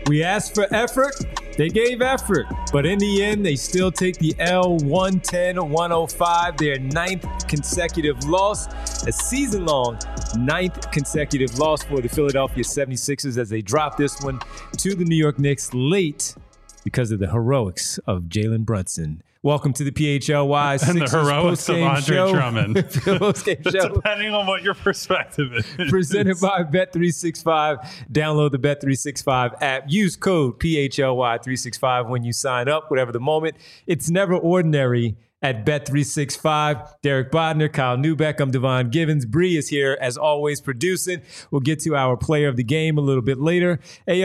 We asked for effort. They gave effort, but in the end, they still take the L 110-105, their 9th consecutive loss, a season-long 9th consecutive loss for the Philadelphia 76ers as they drop this one to the New York Knicks late because of the heroics of Jalen Brunson. Welcome to the PHLY and the heroics of Andre Drummond. Depending on what your perspective is. Presented by Bet365. Download the Bet365 app. Use code PHLY365 when you sign up. Whatever the moment, it's never ordinary at Bet365. Derek Bodner, Kyle Newbeck, I'm Devon Givens. Bree is here, as always, producing. We'll get to our player of the game a little bit later.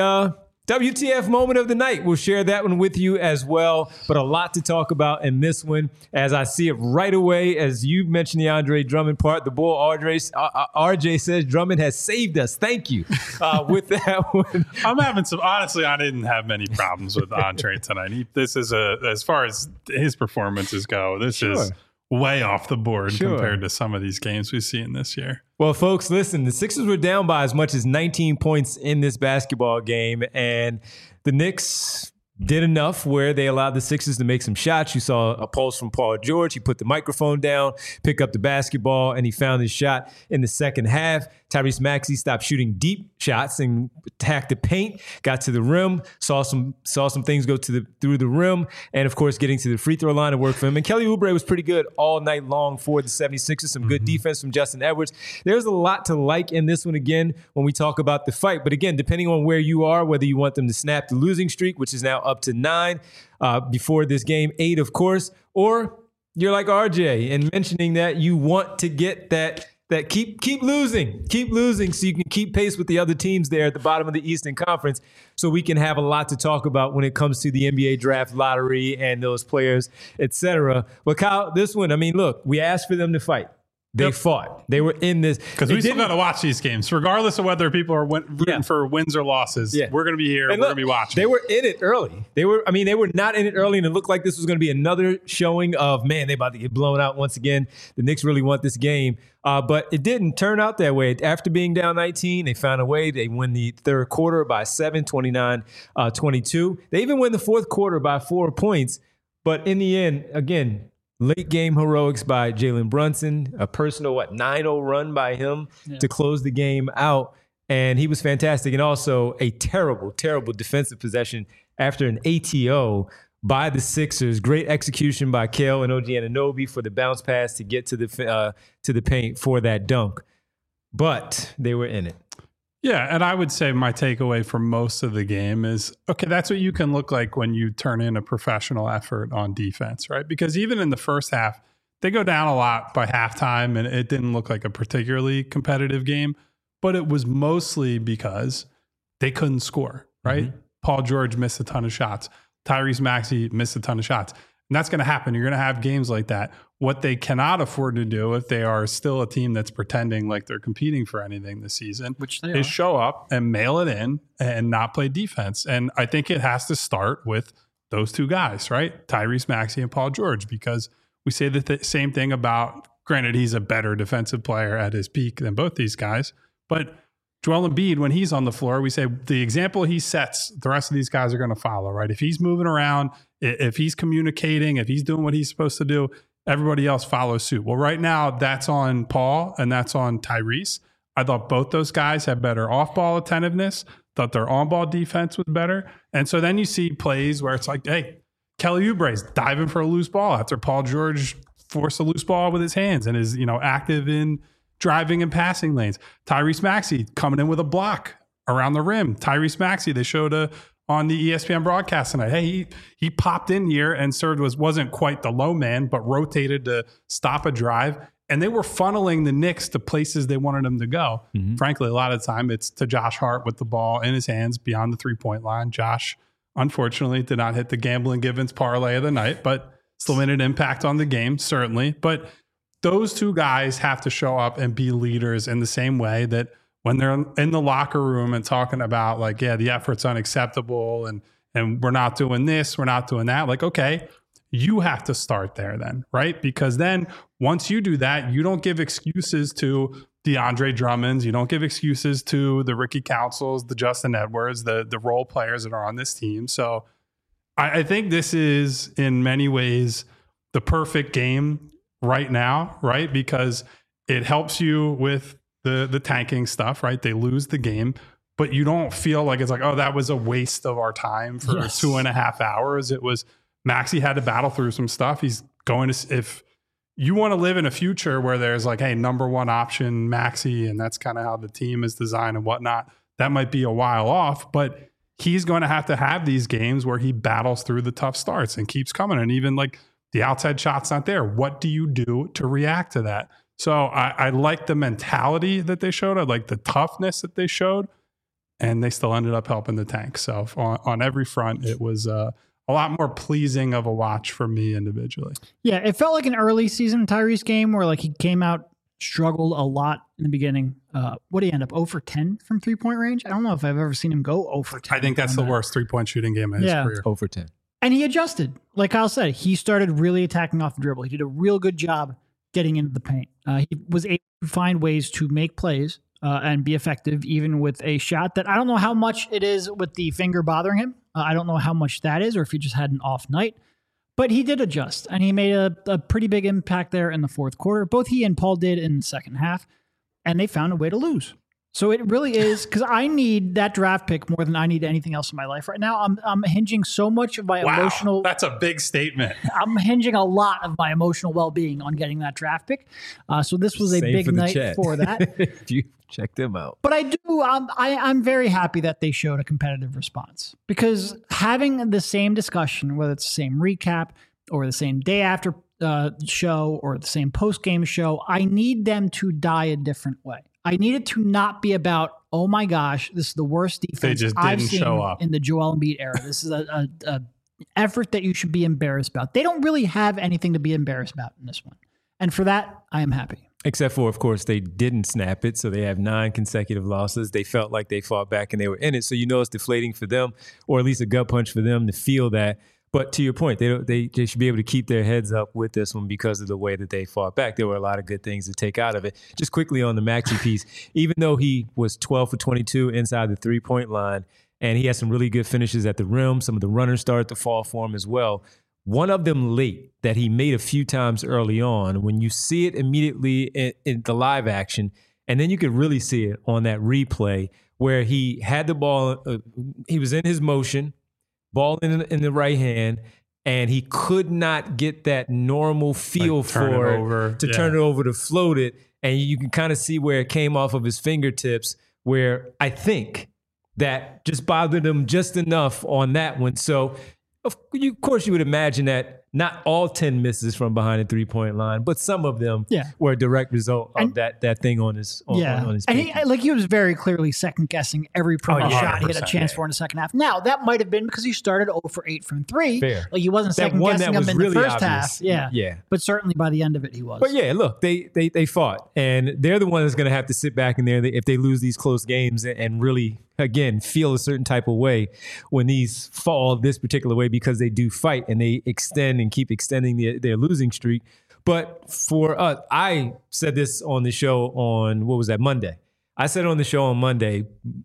WTF moment of the night. We'll share that one with you as well, but a lot to talk about in this one as I see it right away. As you mentioned the Andre Drummond part, the bull RJ says Drummond has saved us. Thank you. With that one. I'm having honestly, I didn't have many problems with Andre tonight. This is as far as his performances go, this is way off the board compared to some of these games we've seen this year. Well, folks, listen, the Sixers were down by as much as 19 points in this basketball game, and the Knicks did enough where they allowed the Sixers to make some shots. You saw a pulse from Paul George. He put the microphone down, picked up the basketball, and he found his shot in the second half. Tyrese Maxey stopped shooting deep shots and attacked the paint, got to the rim, saw some things go through the rim, and of course getting to the free throw line to work for him. And Kelly Oubre was pretty good all night long for the 76ers. Some good defense from Justin Edwards. There's a lot to like in this one again when we talk about the fight. But again, depending on where you are, whether you want them to snap the losing streak, which is now up to 9 before this game, 8 of course, or you're like RJ and mentioning that you want to get that keep losing so you can keep pace with the other teams there at the bottom of the Eastern Conference, so we can have a lot to talk about when it comes to the NBA draft lottery and those players, etc. But Kyle, this one, I mean, look, we asked for them to fight. They fought. They were in this. Because we still got to watch these games, regardless of whether people are rooting for wins or losses. Yeah. We're going to be here. And we're going to be watching. They were in it early. They were not in it early, and it looked like this was going to be another showing of, man, they about to get blown out once again. The Knicks really want this game. But it didn't turn out that way. After being down 19, they found a way. They win the third quarter by 7, 29-22. They even win the fourth quarter by 4 points. But in the end, again, late game heroics by Jalen Brunson, a personal 9-0 run by him to close the game out. And he was fantastic. And also a terrible, terrible defensive possession after an ATO by the Sixers. Great execution by Kale and OG Anunoby for the bounce pass to get to the paint for that dunk. But they were in it. Yeah, and I would say my takeaway from most of the game is, okay, that's what you can look like when you turn in a professional effort on defense, right? Because even in the first half, they go down a lot by halftime, and it didn't look like a particularly competitive game, but it was mostly because they couldn't score, right? Mm-hmm. Paul George missed a ton of shots. Tyrese Maxey missed a ton of shots. And that's going to happen. You're going to have games like that. What they cannot afford to do if they are still a team that's pretending like they're competing for anything this season, which they is show up and mail it in and not play defense. And I think it has to start with those two guys, right? Tyrese Maxey and Paul George, because we say the same thing about, granted, he's a better defensive player at his peak than both these guys, but Joel Embiid, when he's on the floor, we say the example he sets, the rest of these guys are going to follow, right? If he's moving around, if he's communicating, if he's doing what he's supposed to do, everybody else follows suit. Well, right now, that's on Paul and that's on Tyrese. I thought both those guys had better off-ball attentiveness, thought their on-ball defense was better. And so then you see plays where it's like, hey, Kelly Oubre's diving for a loose ball after Paul George forced a loose ball with his hands and is, active in driving and passing lanes. Tyrese Maxey coming in with a block around the rim. Tyrese Maxey, they showed on the ESPN broadcast tonight. Hey, he popped in here and served wasn't quite the low man, but rotated to stop a drive. And they were funneling the Knicks to places they wanted them to go. Mm-hmm. Frankly, a lot of the time it's to Josh Hart with the ball in his hands beyond the three-point line. Josh, unfortunately, did not hit the Gambling Givens parlay of the night, but still made an impact on the game, certainly. But those two guys have to show up and be leaders in the same way that when they're in the locker room and talking about the effort's unacceptable and we're not doing this, we're not doing that. Okay, you have to start there then, right? Because then once you do that, you don't give excuses to DeAndre Drummonds. You don't give excuses to the Ricky Councils, the Justin Edwards, the role players that are on this team. So I think this is in many ways the perfect game right now, right? Because it helps you with the tanking stuff, right? They lose the game, but you don't feel like it's like, oh, that was a waste of our time for 2.5 hours. It was Maxey had to battle through some stuff. He's going to, if you want to live in a future where there's like, hey, number one option, Maxey, and that's kind of how the team is designed and whatnot, that might be a while off, but he's going to have these games where he battles through the tough starts and keeps coming. And even like the outside shot's not there. What do you do to react to that? So I like the mentality that they showed. I like the toughness that they showed, and they still ended up helping the tank. So on every front, it was a lot more pleasing of a watch for me individually. Yeah, it felt like an early season Tyrese game where like he came out, struggled a lot in the beginning. What did he end up, 0 for 10 from 3-point range? I don't know if I've ever seen him go 0 for 10. I think that's the worst 3-point shooting game in his career. 0 for 10. And he adjusted. Like Kyle said, he started really attacking off the dribble. He did a real good job getting into the paint. He was able to find ways to make plays and be effective, even with a shot that I don't know how much it is with the finger bothering him. I don't know how much that is, or if he just had an off night. But he did adjust, and he made a pretty big impact there in the fourth quarter. Both he and Paul did in the second half, and they found a way to lose. So it really is, because I need that draft pick more than I need anything else in my life right now. I'm hinging so much of my emotional... That's a big statement. I'm hinging a lot of my emotional well-being on getting that draft pick. So this was a Same big for night chat. for that. If you check them out. But I do, I'm very happy that they showed a competitive response, because having the same discussion, whether it's the same recap or the same day after show or the same post-game show, I need them to die a different way. I need it to not be about, oh my gosh, this is the worst defense I've seen in the Joel Embiid era. This is a effort that you should be embarrassed about. They don't really have anything to be embarrassed about in this one. And for that, I am happy. Except for, of course, they didn't snap it, so they have 9 consecutive losses. They felt like they fought back and they were in it. So you know it's deflating for them, or at least a gut punch for them to feel that. But to your point, they should be able to keep their heads up with this one because of the way that they fought back. There were a lot of good things to take out of it. Just quickly on the Maxey piece, even though he was 12 for 22 inside the 3-point line, and he had some really good finishes at the rim, some of the runners started to fall for him as well. One of them late that he made a few times early on, when you see it immediately in the live action, and then you could really see it on that replay where he had the ball, he was in his motion, ball in the right hand, and he could not get that normal feel like turn it over to float it. And you can kind of see where it came off of his fingertips, where I think that just bothered him just enough on that one. So of course you would imagine that not all 10 misses from behind the 3-point line, but some of them were a direct result of that thing on his and he was very clearly second guessing every shot he had a chance for in the second half. Now that might have been because he started 0 for 8 from 3. Fair. Like he wasn't second guessing him in really the first obvious. half. Yeah. But certainly by the end of it he was. But yeah, look, they fought, and they're the ones that's going to have to sit back in there if they lose these close games and really, again, feel a certain type of way when these fall this particular way, because they do fight and they extend and keep extending their losing streak. But for us, I said this on the show on, Monday. I said on the show on Monday,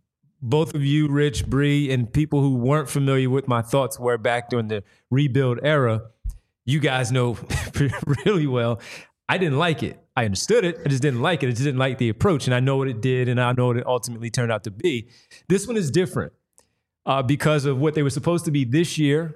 both of you, Rich, Bree, and people who weren't familiar with my thoughts were back during the rebuild era, you guys know really well, I didn't like it. I understood it. I just didn't like it. I just didn't like the approach. And I know what it did, and I know what it ultimately turned out to be. This one is different because of what they were supposed to be this year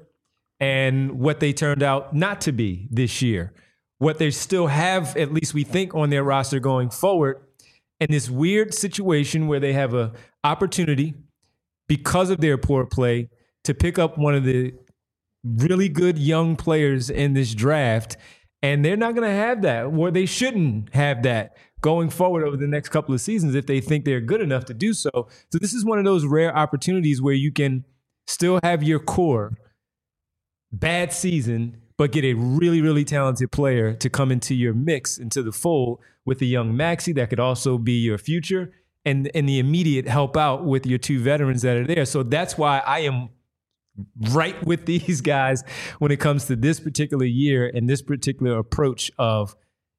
and what they turned out not to be this year. What they still have, at least we think, on their roster going forward, and this weird situation where they have an opportunity, because of their poor play, to pick up one of the really good young players in this draft. And they're not going to have that, or they shouldn't have that going forward over the next couple of seasons if they think they're good enough to do so. So this is one of those rare opportunities where you can still have your core, bad season, but get a really, really talented player to come into your mix, into the fold with a young Maxey that could also be your future, and the immediate help out with your 2 veterans that are there. So that's why I am right with these guys when it comes to this particular year and this particular approach of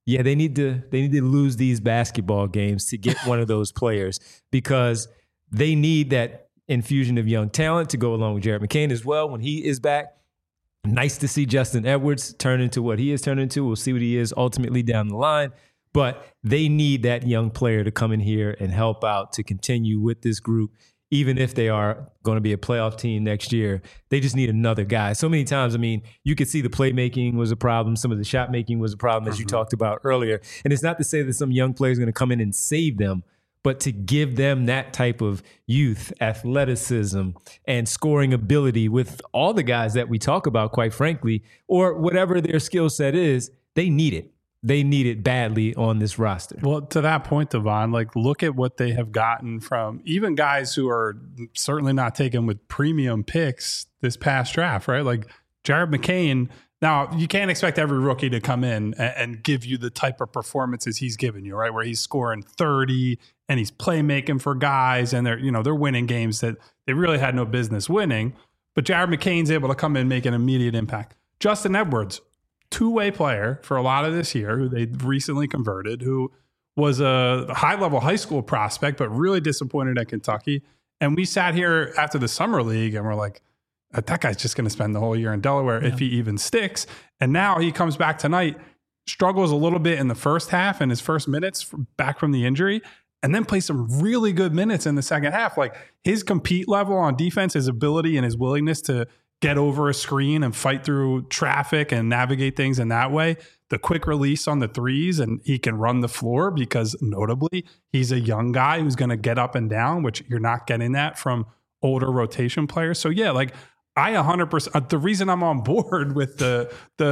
Yeah, they need to lose these basketball games to get one of those players, because they need that infusion of young talent to go along with Jared McCain as well when he is back. Nice to see Justin Edwards turn into what he has turned into. We'll see what he is ultimately down the line. But they need that young player to come in here and help out to continue with this group. Even if they are going to be a playoff team next year, they just need another guy. So many times, I mean, you could see the playmaking was a problem. Some of the shot making was a problem, as you talked about earlier. And it's not to say that some young player is going to come in and save them, but to give them that type of youth, athleticism, and scoring ability with all the guys that we talk about, quite frankly, or whatever their skill set is, they need it. They need it badly on this roster. Well, to that point, Devon, like, look at what they have gotten from even guys who are certainly not taken with premium picks this past draft, right? Like Jared McCain. Now, you can't expect every rookie to come in and give you the type of performances he's given you, right? Where he's scoring 30 and he's playmaking for guys, and they're winning games that they really had no business winning. But Jared McCain's able to come in and make an immediate impact. Justin Edwards, two-way player for a lot of this year, who they recently converted, who was a high-level high school prospect, but really disappointed at Kentucky. And we sat here after the summer league and we're like, that guy's just going to spend the whole year in Delaware if he even sticks. And now he comes back tonight, struggles a little bit in the first half and his first minutes back from the injury, and then plays some really good minutes in the second half. Like, his compete level on defense, his ability and his willingness to get over a screen and fight through traffic and navigate things in that way. The quick release on the threes, and he can run the floor because notably he's a young guy who's going to get up and down, which you're not getting that from older rotation players. So yeah, like I 100%, the reason I'm on board with the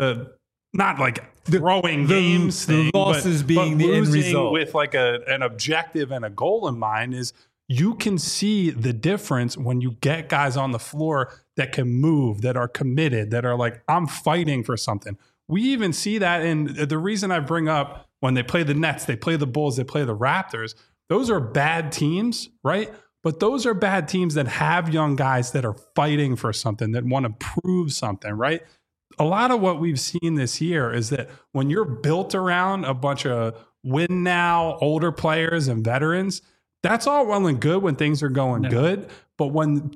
not like throwing games thing, the losses being the end result with like an objective and a goal in mind is you can see the difference when you get guys on the floor that can move, that are committed, that are like, I'm fighting for something. We even see that in the reason I bring up when they play the Nets, they play the Bulls, they play the Raptors. Those are bad teams, right? But those are bad teams that have young guys that are fighting for something, that want to prove something, right? A lot of what we've seen this year is that when you're built around a bunch of win now, older players and veterans, that's all well and good when things are going good. But when,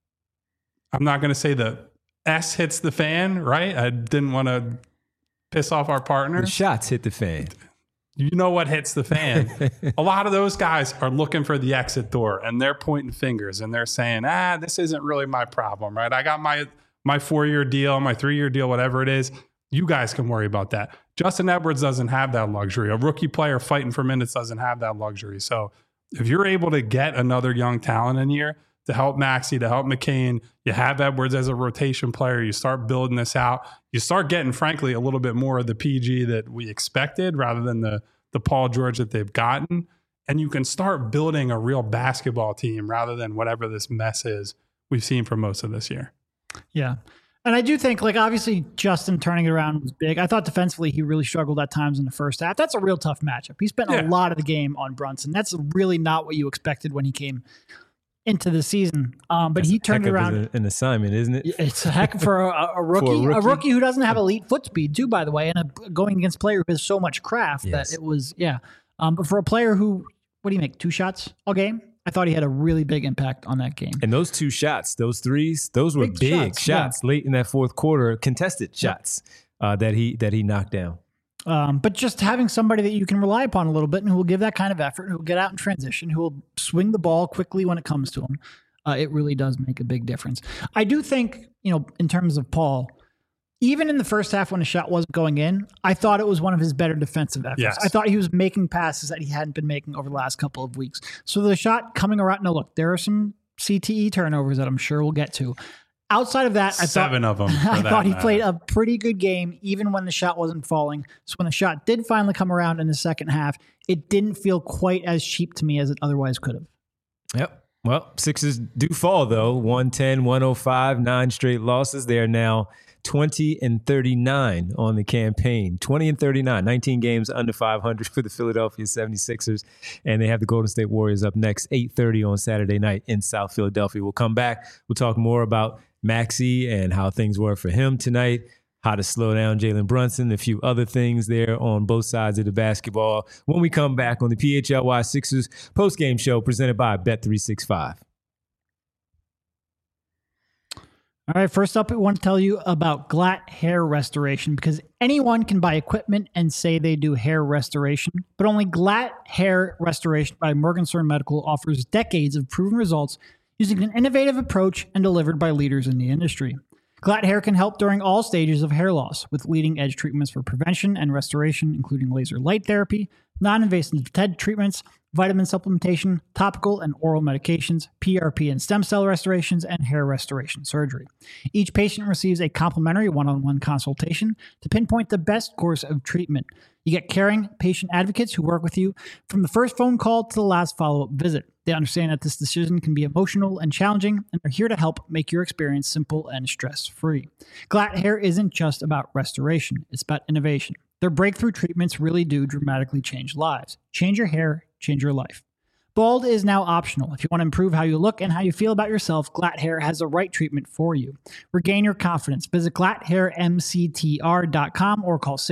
I'm not going to say the S hits the fan, right? I didn't want to piss off our partner. The shots hit the fan. You know what hits the fan. A lot of those guys are looking for the exit door, and they're pointing fingers and they're saying, this isn't really my problem, right? I got my 4-year deal, my 3-year deal, whatever it is. You guys can worry about that. Justin Edwards doesn't have that luxury. A rookie player fighting for minutes doesn't have that luxury. So if you're able to get another young talent in here to help Maxey, to help McCain, you have Edwards as a rotation player, you start building this out, you start getting, frankly, a little bit more of the PG that we expected rather than the Paul George that they've gotten. And you can start building a real basketball team rather than whatever this mess is we've seen for most of this year. Yeah. And I do think, like, obviously Justin turning it around was big. I thought defensively he really struggled at times in the first half. That's a real tough matchup. He spent a lot of the game on Brunson. That's really not what you expected when he came into the season. But that's he turned it around. An assignment, isn't it? It's a heck for a rookie. A rookie who doesn't have elite foot speed, too, by the way, and going against a player who has so much craft that it was, but for a player who, what do you make, 2 shots all game? I thought he had a really big impact on that game. And those 2 shots, those threes, those were big shots late in that fourth quarter, contested shots that he knocked down. But just having somebody that you can rely upon a little bit and who will give that kind of effort, who will get out in transition, who will swing the ball quickly when it comes to him, it really does make a big difference. I do think, in terms of Paul, even in the first half when the shot wasn't going in, I thought it was one of his better defensive efforts. Yes. I thought he was making passes that he hadn't been making over the last couple of weeks. So the shot coming around, now look, there are some CTE turnovers that I'm sure we'll get to. Outside of that, I thought he played a pretty good game, even when the shot wasn't falling. So when the shot did finally come around in the second half, it didn't feel quite as cheap to me as it otherwise could have. Yep. Well, Sixers do fall, though. 110, 105, 9 straight losses. They are now 20-39 on the campaign. 20-39, 19 games under 500 for the Philadelphia 76ers. And they have the Golden State Warriors up next, 8:30 on Saturday night in South Philadelphia. We'll come back. We'll talk more about Maxey and how things were for him tonight, how to slow down Jalen Brunson, a few other things there on both sides of the basketball when we come back on the PHLY Sixers postgame show presented by Bet365. All right, first up, we want to tell you about Glatt Hair Restoration, because anyone can buy equipment and say they do hair restoration, but only Glatt Hair Restoration by Morgenstern Medical offers decades of proven results using an innovative approach and delivered by leaders in the industry. Glatt Hair can help during all stages of hair loss with leading-edge treatments for prevention and restoration, including laser light therapy, non-invasive TED treatments, vitamin supplementation, topical and oral medications, PRP and stem cell restorations, and hair restoration surgery. Each patient receives a complimentary one-on-one consultation to pinpoint the best course of treatment. You get caring patient advocates who work with you from the first phone call to the last follow-up visit. They understand that this decision can be emotional and challenging, and they're here to help make your experience simple and stress-free. Glatt Hair isn't just about restoration, it's about innovation. Their breakthrough treatments really do dramatically change lives. Change your hair, change your life. Bald is now optional. If you want to improve how you look and how you feel about yourself, Glatt Hair has the right treatment for you. Regain your confidence. Visit glatthairmctr.com or call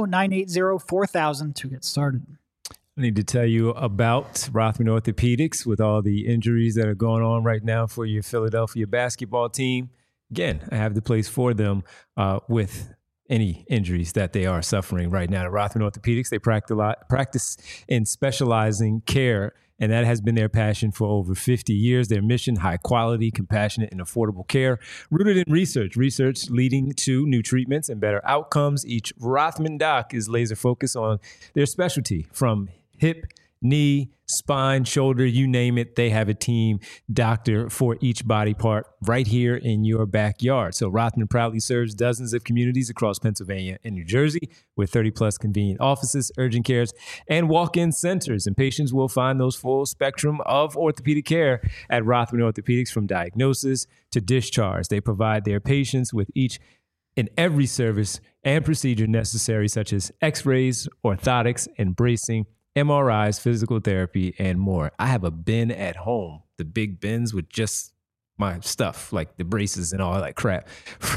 610-980-4000 to get started. I need to tell you about Rothman Orthopedics with all the injuries that are going on right now for your Philadelphia basketball team. Again, I have the place for them with any injuries that they are suffering right now. At Rothman Orthopedics, they practice in specializing care, and that has been their passion for over 50 years. Their mission, high quality, compassionate, and affordable care, rooted in research leading to new treatments and better outcomes. Each Rothman doc is laser focused on their specialty, from hip, knee, spine, shoulder, you name it. They have a team doctor for each body part right here in your backyard. So Rothman proudly serves dozens of communities across Pennsylvania and New Jersey with 30 plus convenient offices, urgent cares, and walk-in centers. And patients will find those full spectrum of orthopedic care at Rothman Orthopedics, from diagnosis to discharge. They provide their patients with each and every service and procedure necessary, such as x-rays, orthotics, and bracing, MRIs, physical therapy, and more. I have a bin at home, the big bins with just my stuff, like the braces and all that crap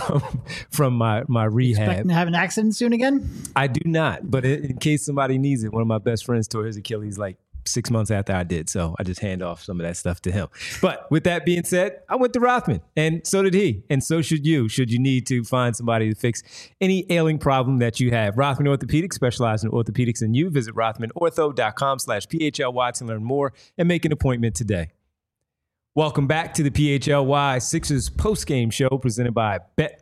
from my rehab. Expecting to have an accident soon again? I do not, but in case somebody needs it, one of my best friends tore his Achilles like 6 months after I did, so I just hand off some of that stuff to him. But with that being said, I went to Rothman, and so did he, and so should you, should you need to find somebody to fix any ailing problem that you have. Rothman Orthopedics, specialized in orthopedics and you. Visit rothmanortho.com/PHLY to learn more and make an appointment today. Welcome back to the PHLY Sixers postgame show presented by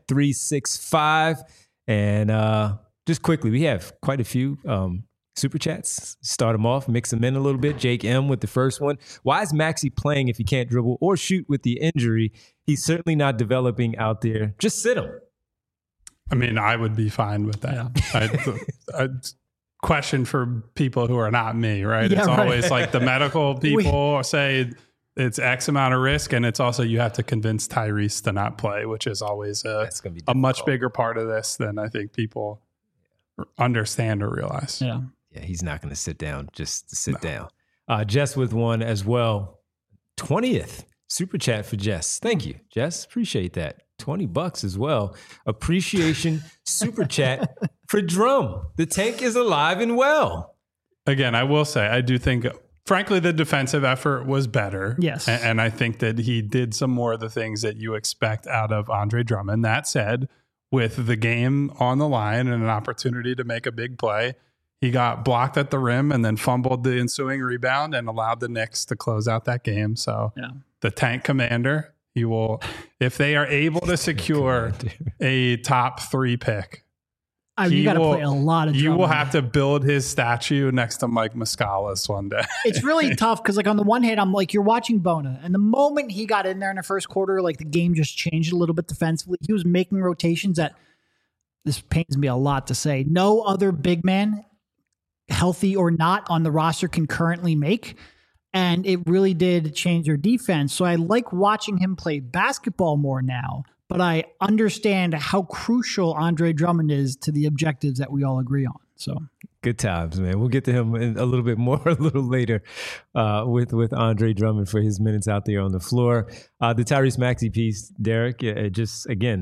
Bet365. And just quickly, we have quite a few super chats. Start them off, mix them in a little bit. Jake M with the first one. Why is Maxey playing if he can't dribble or shoot with the injury? He's certainly not developing out there. Just sit him. I mean, I would be fine with that. Yeah. Question for people who are not me, right? Yeah, it's right. Always like the medical people say it's X amount of risk, and it's also you have to convince Tyrese to not play, which is always a much bigger part of this than I think people understand or realize. Yeah. Yeah, he's not going to sit down just to sit down. Jess with one as well. 20th super chat for Jess. Thank you, Jess. Appreciate that. $20 as well. Appreciation super chat for Drum. The tank is alive and well. Again, I will say, I do think, frankly, the defensive effort was better. Yes. And I think that he did some more of the things that you expect out of Andre Drummond. That said, with the game on the line and an opportunity to make a big play, he got blocked at the rim and then fumbled the ensuing rebound and allowed the Knicks to close out that game. So the tank commander, he will, if they are able to secure a top 3 pick, you got to play a lot of You Drummond. will have to build his statue next to Mike Muscala's one day. It's really tough because, like, on the one hand, I'm like, you're watching Bona, and the moment he got in there in the first quarter, like, the game just changed a little bit defensively. He was making rotations that, this pains me a lot to say, no other big man, healthy or not, on the roster can currently make. And it really did change their defense. So I like watching him play basketball more now, but I understand how crucial Andre Drummond is to the objectives that we all agree on. So good times, man. We'll get to him in a little bit more a little later with Andre Drummond for his minutes out there on the floor. The Tyrese Maxey piece, Derek, just again,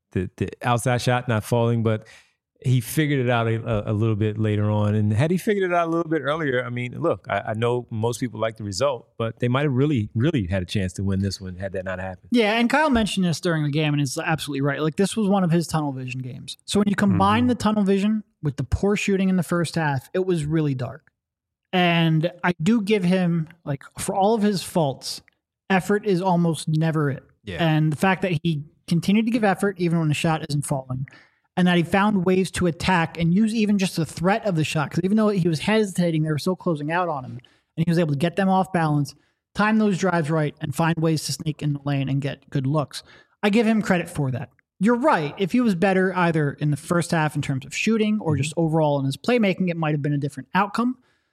the outside shot not falling, but he figured it out a little bit later on. And had he figured it out a little bit earlier, I mean, look, I know most people like the result, but they might have really, really had a chance to win this one had that not happened. Yeah, and Kyle mentioned this during the game, and it's absolutely right. Like, this was one of his tunnel vision games. So when you combine the tunnel vision with the poor shooting in the first half, it was really dark. And I do give him, like, for all of his faults, effort is almost never it. Yeah. And the fact that he continued to give effort even when the shot isn't falling, and that he found ways to attack and use even just the threat of the shot. Because even though he was hesitating, they were still closing out on him. And he was able to get them off balance, time those drives right, and find ways to sneak in the lane and get good looks. I give him credit for that. You're right. If he was better either in the first half in terms of shooting or just overall in his playmaking, it might have been a different outcome.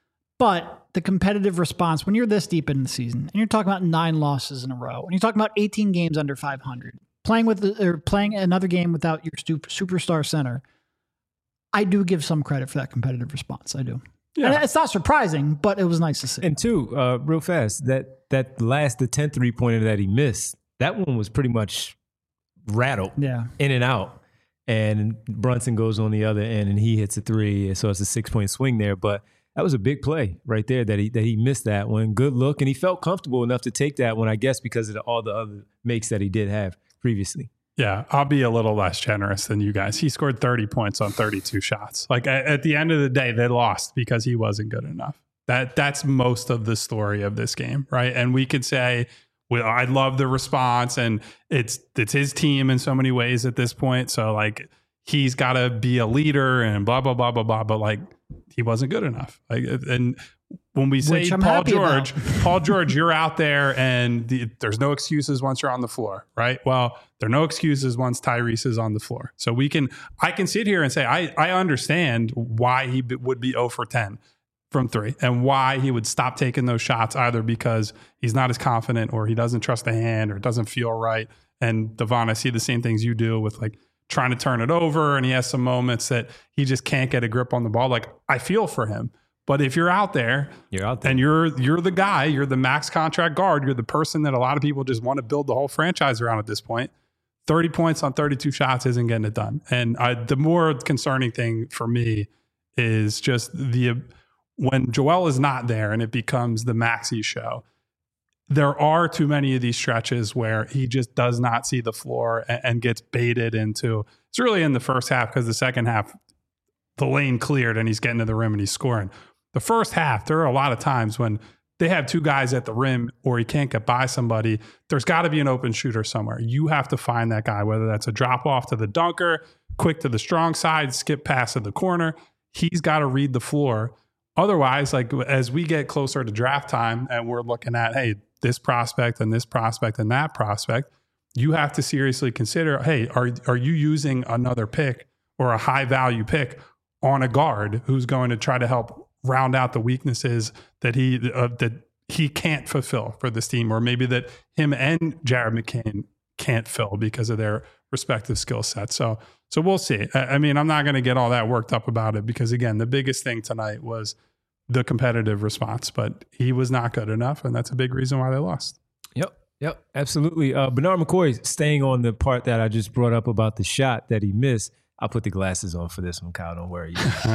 But the competitive response, when you're this deep in the season, and you're talking about 9 losses in a row, and you're talking about 18 games under 500, playing another game without your superstar center, I do give some credit for that competitive response. I do. Yeah. And it's not surprising, but it was nice to see. And two, real fast, the 10th 3-pointer that he missed, that one was pretty much rattled in and out. And Brunson goes on the other end and he hits a 3. So it's a 6-point swing there. But that was a big play right there that he missed that one. Good look. And he felt comfortable enough to take that one, I guess, because of all the other makes that he did have previously. Yeah, I'll be a little less generous than you guys. He scored 30 points on 32 shots. Like at the end of the day, they lost because he wasn't good enough. That's most of the story of this game, right? And we could say, well, I love the response, and it's his team in so many ways at this point. So like he's got to be a leader and blah blah blah blah blah. But like he wasn't good enough. Like, and when we say Paul George, you're out there and there's no excuses once you're on the floor, right? Well, there are no excuses once Tyrese is on the floor. So I can sit here and say, I understand why he would be 0 for 10 from 3 and why he would stop taking those shots, either because he's not as confident or he doesn't trust the hand or it doesn't feel right. And Devon, I see the same things you do with like trying to turn it over. And he has some moments that he just can't get a grip on the ball. Like I feel for him. But if you're out there and you're the guy, you're the max contract guard, you're the person that a lot of people just want to build the whole franchise around at this point, 30 points on 32 shots isn't getting it done. And the more concerning thing for me is just when Joel is not there and it becomes the Maxey show, there are too many of these stretches where he just does not see the floor and gets baited into, it's really in the first half, because the second half, the lane cleared and he's getting to the rim and he's scoring. The first half, there are a lot of times when they have 2 guys at the rim or he can't get by somebody. There's got to be an open shooter somewhere. You have to find that guy, whether that's a drop off to the dunker, quick to the strong side, skip pass to the corner. He's got to read the floor. Otherwise, like as we get closer to draft time and we're looking at, hey, this prospect and this prospect and that prospect, you have to seriously consider, hey, are you using another pick or a high value pick on a guard who's going to try to help round out the weaknesses that he can't fulfill for this team, or maybe that him and Jared McCain can't fill because of their respective skill sets. So we'll see. I mean, I'm not going to get all that worked up about it because, again, the biggest thing tonight was the competitive response, but he was not good enough, and that's a big reason why they lost. Yep, absolutely. Bernard McCoy, staying on the part that I just brought up about the shot that he missed. I'll put the glasses on for this one, Kyle. Don't worry.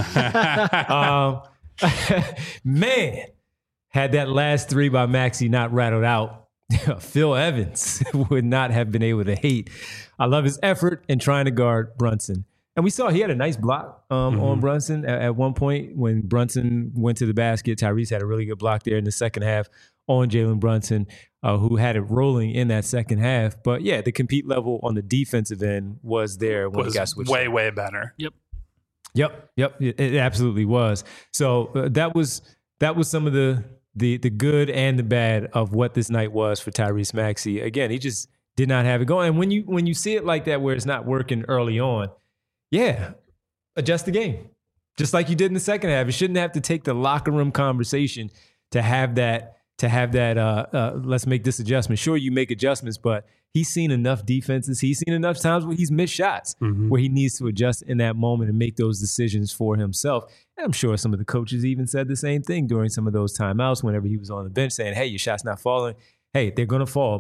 Man, had that last 3 by Maxey not rattled out, Phil Evans would not have been able to hate. I love his effort in trying to guard Brunson. And we saw he had a nice block on Brunson at one point when Brunson went to the basket. Tyrese had a really good block there in the second half on Jalen Brunson, who had it rolling in that second half. But yeah, the compete level on the defensive end was there when he got switched. Way better. Yep. It absolutely was. So that was some of the good and the bad of what this night was for Tyrese Maxey. Again, he just did not have it going. And when you see it like that, where it's not working early on, yeah, adjust the game, just like you did in the second half. You shouldn't have to take the locker room conversation to have that. Let's make this adjustment. Sure, you make adjustments, but he's seen enough defenses. He's seen enough times where he's missed shots where he needs to adjust in that moment and make those decisions for himself. And I'm sure some of the coaches even said the same thing during some of those timeouts whenever he was on the bench saying, hey, your shot's not falling. Hey, they're going to fall, but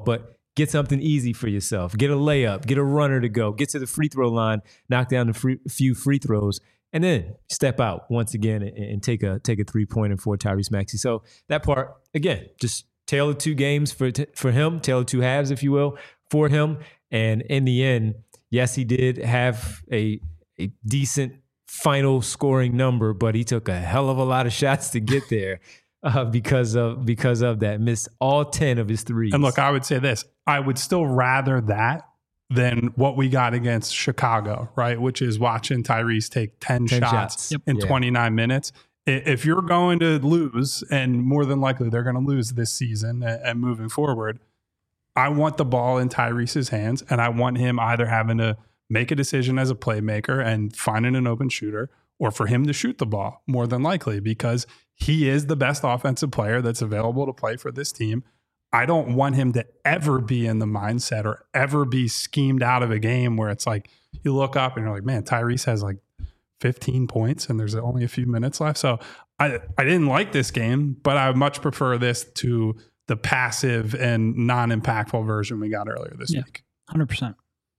get something easy for yourself. Get a layup, get a runner to go, get to the free throw line, knock down a few free throws, and then step out once again and take a 3-pointer for Tyrese Maxey. So that part, again, just tale of two games for him, tale of two halves, if you will, for him. And in the end, yes, he did have a decent final scoring number, but he took a hell of a lot of shots to get there because of that. Missed all 10 of his threes. And look, I would say this. I would still rather that than what we got against Chicago, right? Which is watching Tyrese take 10 shots in 29 minutes. If you're going to lose, and more than likely they're going to lose this season and moving forward, I want the ball in Tyrese's hands, and I want him either having to make a decision as a playmaker and finding an open shooter, or for him to shoot the ball, more than likely, because he is the best offensive player that's available to play for this team. I don't want him to ever be in the mindset or ever be schemed out of a game where it's like you look up and you're like, man, Tyrese has like 15 points and there's only a few minutes left. So I didn't like this game, but I much prefer this to the passive and non-impactful version we got earlier this week. 100%.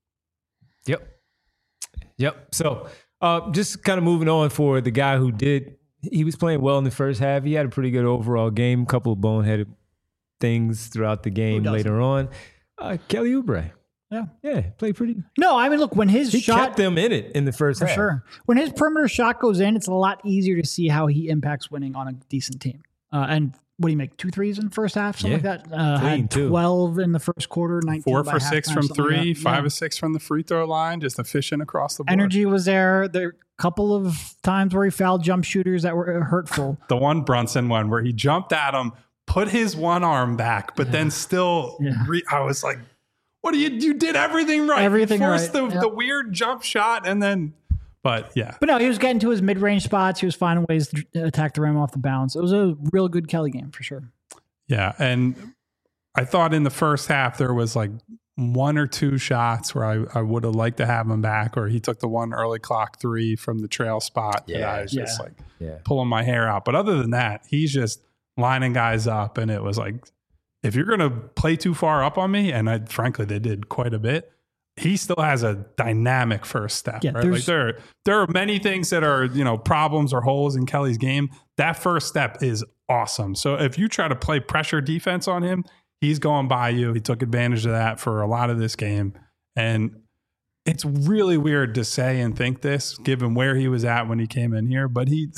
Yep. So just kind of moving on for the guy who he was playing well in the first half. He had a pretty good overall game, couple of boneheaded things throughout the game later on. Kelly Oubre. Yeah, played pretty. No, I mean, look, when his shot kept them in it in the first half. For sure. When his perimeter shot goes in, it's a lot easier to see how he impacts winning on a decent team. And what do you make? 2 threes in the first half, something like that. Had 12 in the first quarter, 19 4 by for 6 from 3, like 5 of 6 from the free throw line, just efficient across the board. Energy was there. There were a couple of times where he fouled jump shooters that were hurtful. The one Brunson one where he jumped at him, put his one arm back, but then still, I was like, what you did everything right. Everything you forced right. the weird jump shot and then, but yeah. But no, he was getting to his mid-range spots. He was finding ways to attack the rim off the bounce. It was a real good Kelly game for sure. Yeah. And I thought in the first half there was like 1 or 2 shots where I would have liked to have him back, or he took the one early clock 3 from the trail spot that I was just pulling my hair out. But other than that, he's just lining guys up, and it was like, if you're going to play too far up on me, and frankly, they did quite a bit, he still has a dynamic first step. Yeah, right? Like there are many things that are, problems or holes in Kelly's game. That first step is awesome. So if you try to play pressure defense on him, he's going by you. He took advantage of that for a lot of this game. And it's really weird to say and think this, given where he was at when he came in here, but he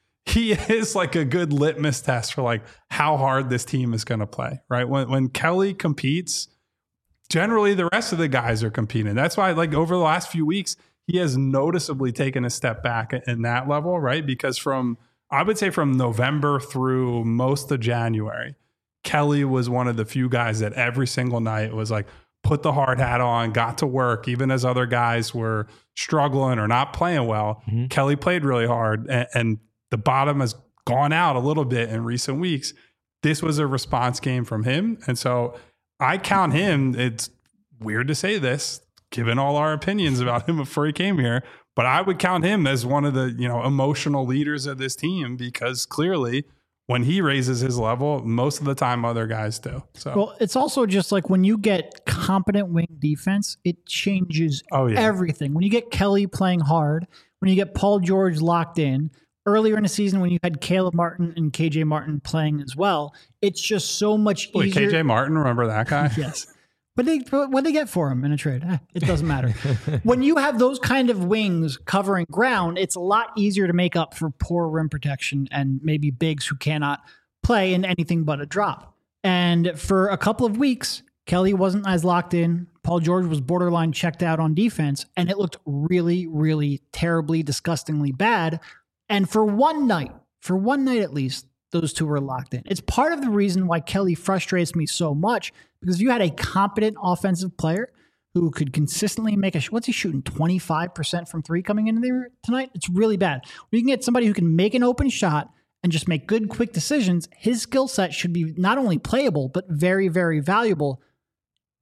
is like a good litmus test for like how hard this team is going to play, right? When Kelly competes, generally the rest of the guys are competing. That's why, like, over the last few weeks, he has noticeably taken a step back in that level, right? Because I would say from November through most of January, Kelly was one of the few guys that every single night was like, put the hard hat on, got to work, even as other guys were struggling or not playing well. Mm-hmm. Kelly played really hard, and the bottom has gone out a little bit in recent weeks. This was a response game from him. And so I count him, it's weird to say this, given all our opinions about him before he came here, but I would count him as one of the, emotional leaders of this team, because clearly when he raises his level, most of the time other guys do. So, well, it's also just like when you get competent wing defense, it changes everything. When you get Kelly playing hard, when you get Paul George locked in, earlier in the season when you had Caleb Martin and KJ Martin playing as well, it's just so much easier. KJ Martin, remember that guy? Yes. But what they get for him in a trade? It doesn't matter. When you have those kind of wings covering ground, it's a lot easier to make up for poor rim protection and maybe bigs who cannot play in anything but a drop. And for a couple of weeks, Kelly wasn't as locked in. Paul George was borderline checked out on defense, and it looked really, really terribly, disgustingly bad. And for one night at least, those two were locked in. It's part of the reason why Kelly frustrates me so much, because if you had a competent offensive player who could consistently make what's he shooting, 25% from 3 coming in there tonight? It's really bad. When you can get somebody who can make an open shot and just make good, quick decisions, his skill set should be not only playable, but very, very valuable.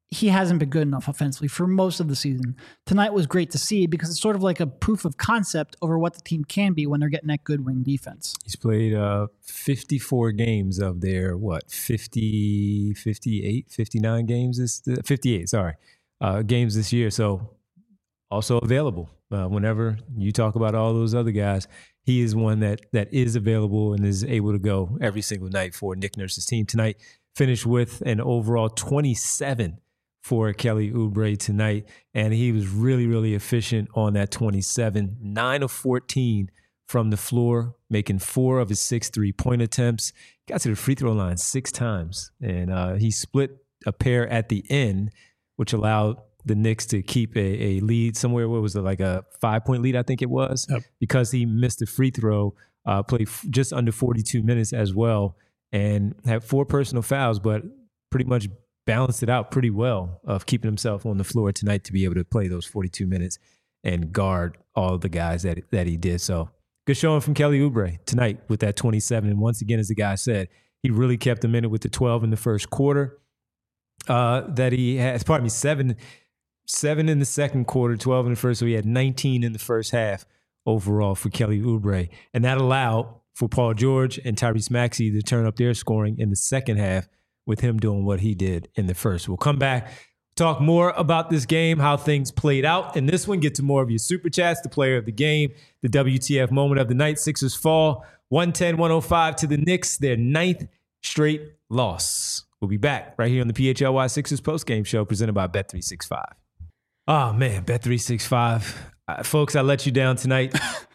he hasn't been good enough offensively for most of the season. Tonight was great to see because it's sort of like a proof of concept over what the team can be when they're getting that good wing defense. He's played 54 games of their, 59 games? 58, sorry, games this year. So also available. Whenever you talk about all those other guys, he is one that is available and is able to go every single night for Nick Nurse's team. Tonight finished with an overall 27 for Kelly Oubre tonight, and he was really, really efficient on that 27. 9 of 14 from the floor, making 4 of his 6 3-point attempts. Got to the free throw line 6 times, and he split a pair at the end, which allowed the Knicks to keep a lead somewhere. What was it, like a 5-point lead, I think it was? Yep. Because he missed a free throw, played just under 42 minutes as well, and had 4 personal fouls, but pretty much balanced it out pretty well of keeping himself on the floor tonight to be able to play those 42 minutes and guard all of the guys that he did. So good showing from Kelly Oubre tonight with that 27. And once again, as the guy said, he really kept them in it with the 12 in the first quarter. That he has, 7 in the second quarter, 12 in the first. So he had 19 in the first half overall for Kelly Oubre. And that allowed for Paul George and Tyrese Maxey to turn up their scoring in the second half with him doing what he did in the first. We'll come back, talk more about this game, how things played out in this one, get to more of your super chats, the player of the game, the WTF moment of the night. Sixers fall 110-105 to the Knicks, their 9th straight loss. We'll be back right here on the PHLY Sixers postgame show presented by Bet365. Oh, man, Bet365. Folks, I let you down tonight.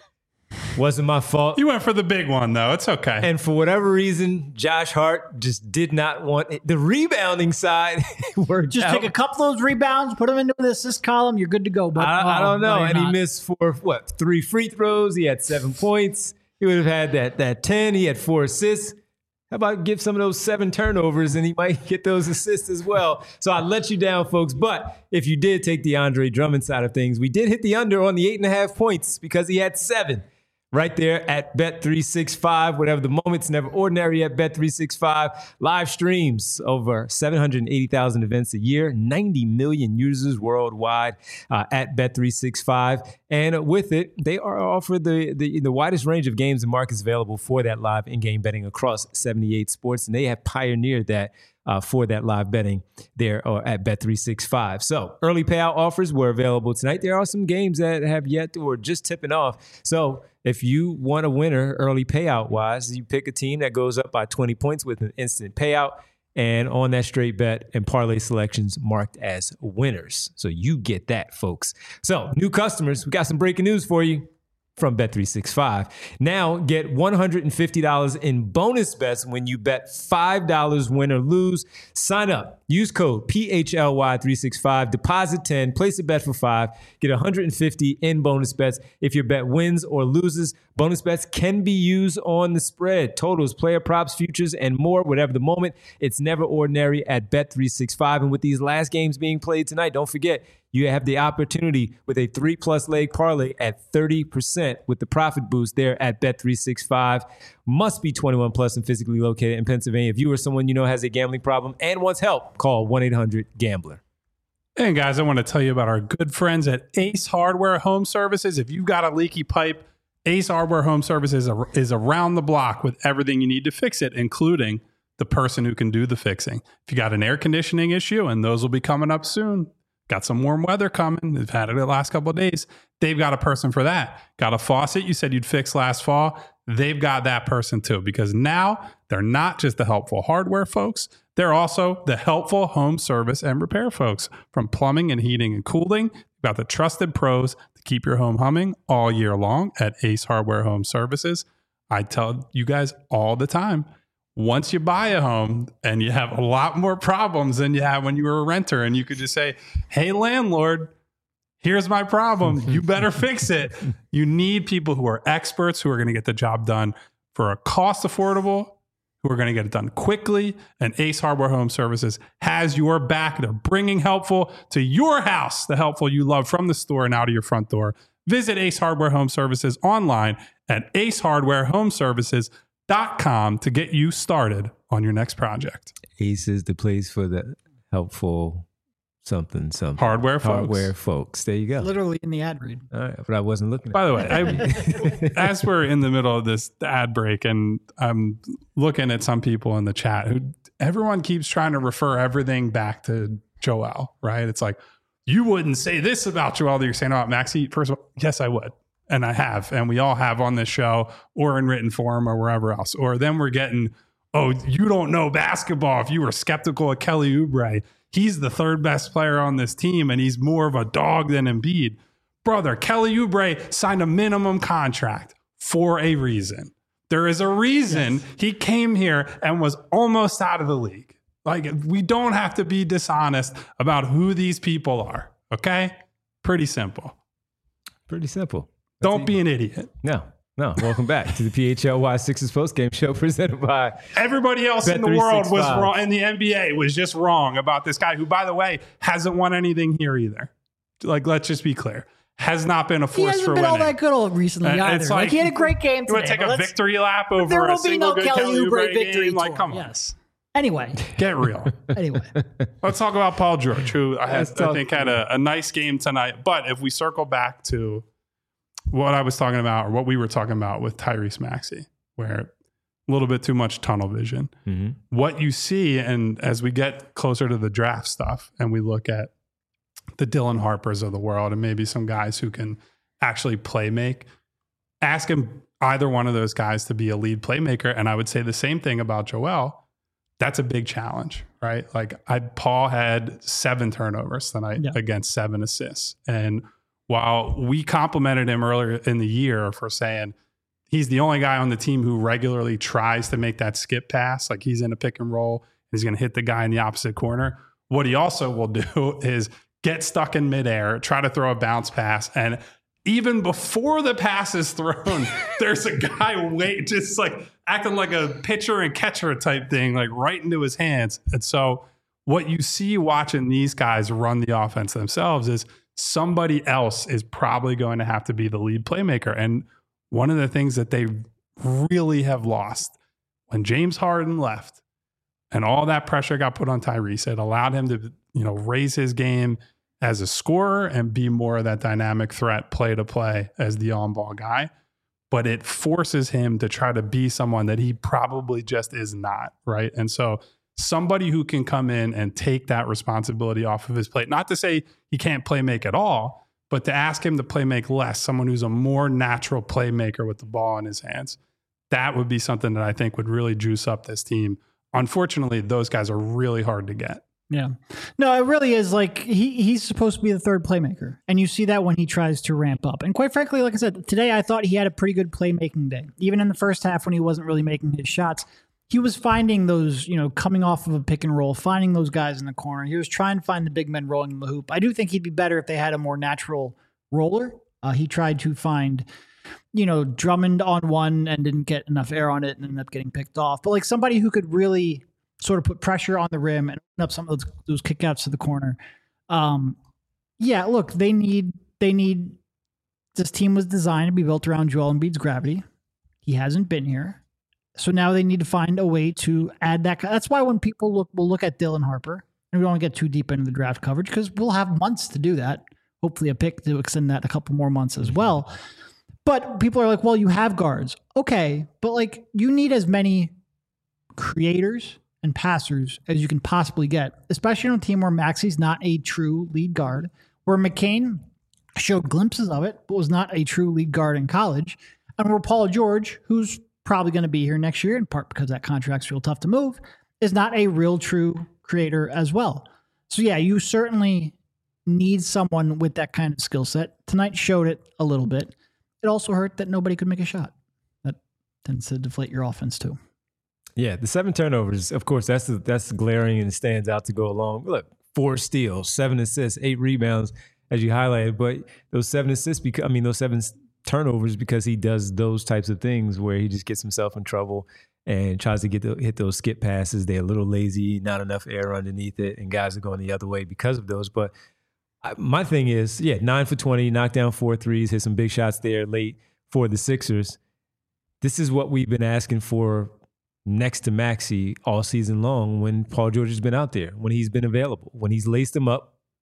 Wasn't my fault. You went for the big one, though. It's okay. And for whatever reason, Josh Hart just did not want it. The rebounding side. Just take a couple of those rebounds, put them into the assist column. You're good to go. But I don't know. No, and he missed 3 free throws. He had 7 points. He would have had that 10. He had 4 assists. How about give some of those 7 turnovers and he might get those assists as well. So I let you down, folks. But if you did take the Andre Drummond side of things, we did hit the under on the 8.5 points because he had 7. Right there at Bet365. Whatever the moment's never ordinary at Bet365. Live streams over 780,000 events a year, 90 million users worldwide at Bet365. And with it, they are offered the widest range of games and markets available for that live in-game betting across 78 sports. And they have pioneered that for that live betting there at Bet365. So early payout offers were available tonight. There are some games that have yet or just tipping off. So if you want a winner early payout wise, you pick a team that goes up by 20 points with an instant payout and on that straight bet and parlay selections marked as winners. So you get that, folks. So new customers, we got some breaking news for you from Bet365. Now get $150 in bonus bets when you bet $5 win or lose. Sign up. Use code PHLY365. Deposit 10. Place a bet for 5. Get $150 in bonus bets if your bet wins or loses. Bonus bets can be used on the spread, totals, player props, futures, and more. Whatever the moment, it's never ordinary at Bet365. And with these last games being played tonight, don't forget, you have the opportunity with a 3+ leg parlay at 30% with the profit boost there at Bet365. Must be 21 plus and physically located in Pennsylvania. If you or someone you know has a gambling problem and wants help, call 1-800-GAMBLER. And guys, I want to tell you about our good friends at Ace Hardware Home Services. If you've got a leaky pipe, Ace Hardware Home Services is around the block with everything you need to fix it, including the person who can do the fixing. If you got an air conditioning issue, and those will be coming up soon, got some warm weather coming, they've had it the last couple of days, they've got a person for that. Got a faucet you said you'd fix last fall, they've got that person too, because now they're not just the helpful hardware folks, they're also the helpful home service and repair folks. From plumbing and heating and cooling, you've got the trusted pros to keep your home humming all year long at Ace Hardware Home Services. I tell you guys all the time, once you buy a home and you have a lot more problems than you had when you were a renter, and you could just say, hey, landlord, here's my problem. You better fix it. You need people who are experts, who are going to get the job done for a cost affordable, who are going to get it done quickly. And Ace Hardware Home Services has your back. They're bringing helpful to your house, the helpful you love, from the store and out of your front door. Visit Ace Hardware Home Services online at acehardwarehomeservices.com to get you started on your next project. Ace is the place for the helpful something. Hardware folks. Hardware folks. There you go. Literally in the ad read. All right, but I wasn't looking at By the way, as we're in the middle of this ad break, and I'm looking at some people in the chat who everyone keeps trying to refer everything back to Joel, right? It's like, you wouldn't say this about Joel that you're saying about Maxey. First of all, yes, I would. And I have. And we all have on this show or in written form or wherever else. Or then we're getting, oh, you don't know basketball if you were skeptical of Kelly Oubre. He's the third best player on this team, and he's more of a dog than Embiid. Brother, Kelly Oubre signed a minimum contract for a reason. There is a reason he came here and was almost out of the league. Like, we don't have to be dishonest about who these people are, okay? Pretty simple. Pretty simple. Don't be an idiot. No. Welcome back to the PHLY Sixers postgame show presented by everybody else in the world was wrong, and the NBA was just wrong about this guy who, by the way, hasn't won anything here either. Like, let's just be clear. Has not been a force for winning. He hasn't been all that good all recently either. It's like, he had a great game today. You would take a victory lap over a single good Kelly Oubre victory game? Like, come on. Yes. Anyway. Get real. Let's talk about Paul George, who I think had a nice game tonight. But if we circle back to what I was talking about, or what we were talking about with Tyrese Maxey, where a little bit too much tunnel vision. Mm-hmm. What you see, and as we get closer to the draft stuff and we look at the Dylan Harpers of the world and maybe some guys who can actually play make, ask him either one of those guys to be a lead playmaker. And I would say the same thing about Joel. That's a big challenge, right? Like, Paul had 7 turnovers tonight against 7 assists. And while we complimented him earlier in the year for saying he's the only guy on the team who regularly tries to make that skip pass, like he's in a pick and roll, he's going to hit the guy in the opposite corner. What he also will do is get stuck in midair, try to throw a bounce pass, and even before the pass is thrown, there's a guy just like acting like a pitcher and catcher type thing, like right into his hands. And so what you see watching these guys run the offense themselves is somebody else is probably going to have to be the lead playmaker. And one of the things that they really have lost when James Harden left and all that pressure got put on Tyrese, it allowed him to, raise his game as a scorer and be more of that dynamic threat play to play as the on-ball guy. But it forces him to try to be someone that he probably just is not, right? And so somebody who can come in and take that responsibility off of his plate, not to say he can't play make at all, but to ask him to play make less, someone who's a more natural playmaker with the ball in his hands, that would be something that I think would really juice up this team. Unfortunately, those guys are really hard to get. Yeah. No, it really is. Like, he's supposed to be the third playmaker. And you see that when he tries to ramp up. And quite frankly, like I said, today I thought he had a pretty good playmaking day. Even in the first half when he wasn't really making his shots, he was finding those, coming off of a pick and roll, finding those guys in the corner. He was trying to find the big men rolling in the hoop. I do think he'd be better if they had a more natural roller. He tried to find, Drummond on one and didn't get enough air on it and ended up getting picked off. But like somebody who could really sort of put pressure on the rim and open up some of those kickouts to the corner. Look, they need, this team was designed to be built around Joel Embiid's gravity. He hasn't been here. So now they need to find a way to add that. That's why when people will look at Dylan Harper, and we don't get too deep into the draft coverage because we'll have months to do that. Hopefully a pick to extend that a couple more months as well. But people are like, well, you have guards. Okay. But like, you need as many creators and passers as you can possibly get, especially on a team where Maxey's not a true lead guard, where McCain showed glimpses of it, but was not a true lead guard in college. And where Paul George, who's probably going to be here next year, in part because that contract's real tough to move, is not a real true creator as well. So yeah, you certainly need someone with that kind of skill set. Tonight showed it a little bit. It also hurt that nobody could make a shot. That tends to deflate your offense too. Yeah, the 7 turnovers, of course, that's glaring and stands out to go along. Look, 4 steals, 7 assists, 8 rebounds, as you highlighted. But those 7 assists, those 7 turnovers, because he does those types of things where he just gets himself in trouble and tries to hit those skip passes. They're a little lazy, not enough air underneath it, and guys are going the other way because of those. But my thing is, 9 for 20, knocked down 4 threes, hit some big shots there late for the Sixers. This is what we've been asking for next to Maxey all season long when Paul George has been out there, when he's been available, when he's laced him up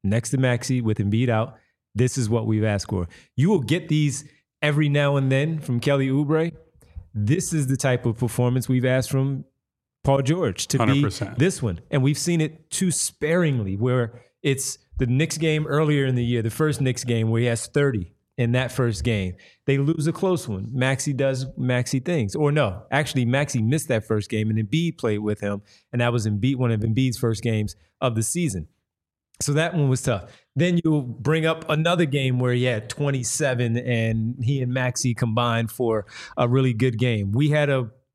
next to Maxey with Embiid out. This is what we've asked for. You will get these every now and then from Kelly Oubre. This is the type of performance we've asked from Paul George to 100%. be this one. And we've seen it too sparingly, where it's the Knicks game earlier in the year, the first Knicks game where he has 30 in that first game. They lose a close one. Maxey does Maxey things. Or no, actually Maxey missed that first game and Embiid played with him. And that was one of Embiid's first games of the season. So that one was tough. Then you bring up another game where he had 27 and he and Maxey combined for a really good game. We had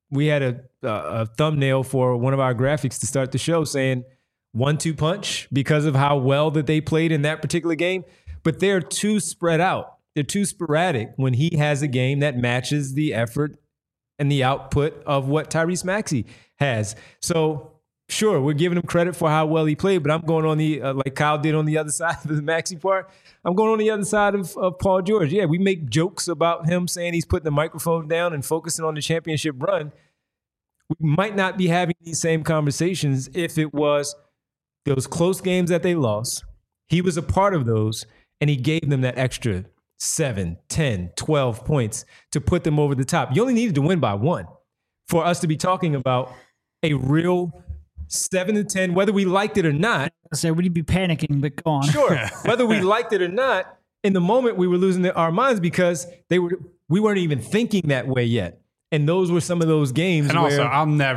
a thumbnail for one of our graphics to start the show saying 1-2 punch because of how well that they played in that particular game. But they're too spread out. They're too sporadic when he has a game that matches the effort and the output of what Tyrese Maxey has. So sure, we're giving him credit for how well he played, but I'm going on the, like Kyle did on the other side of the Maxey part, I'm going on the other side of Paul George. Yeah, we make jokes about him saying he's putting the microphone down and focusing on the championship run. We might not be having these same conversations if it was those close games that they lost. He was a part of those, and he gave them that extra 7, 10, 12 points to put them over the top. You only needed to win by 1 for us to be talking about a real 7 to 10, whether we liked it or not. So we'd be panicking, but go on. Sure. Whether we liked it or not, in the moment we were losing our minds because we weren't even thinking that way yet. And those were some of those games. And where, also,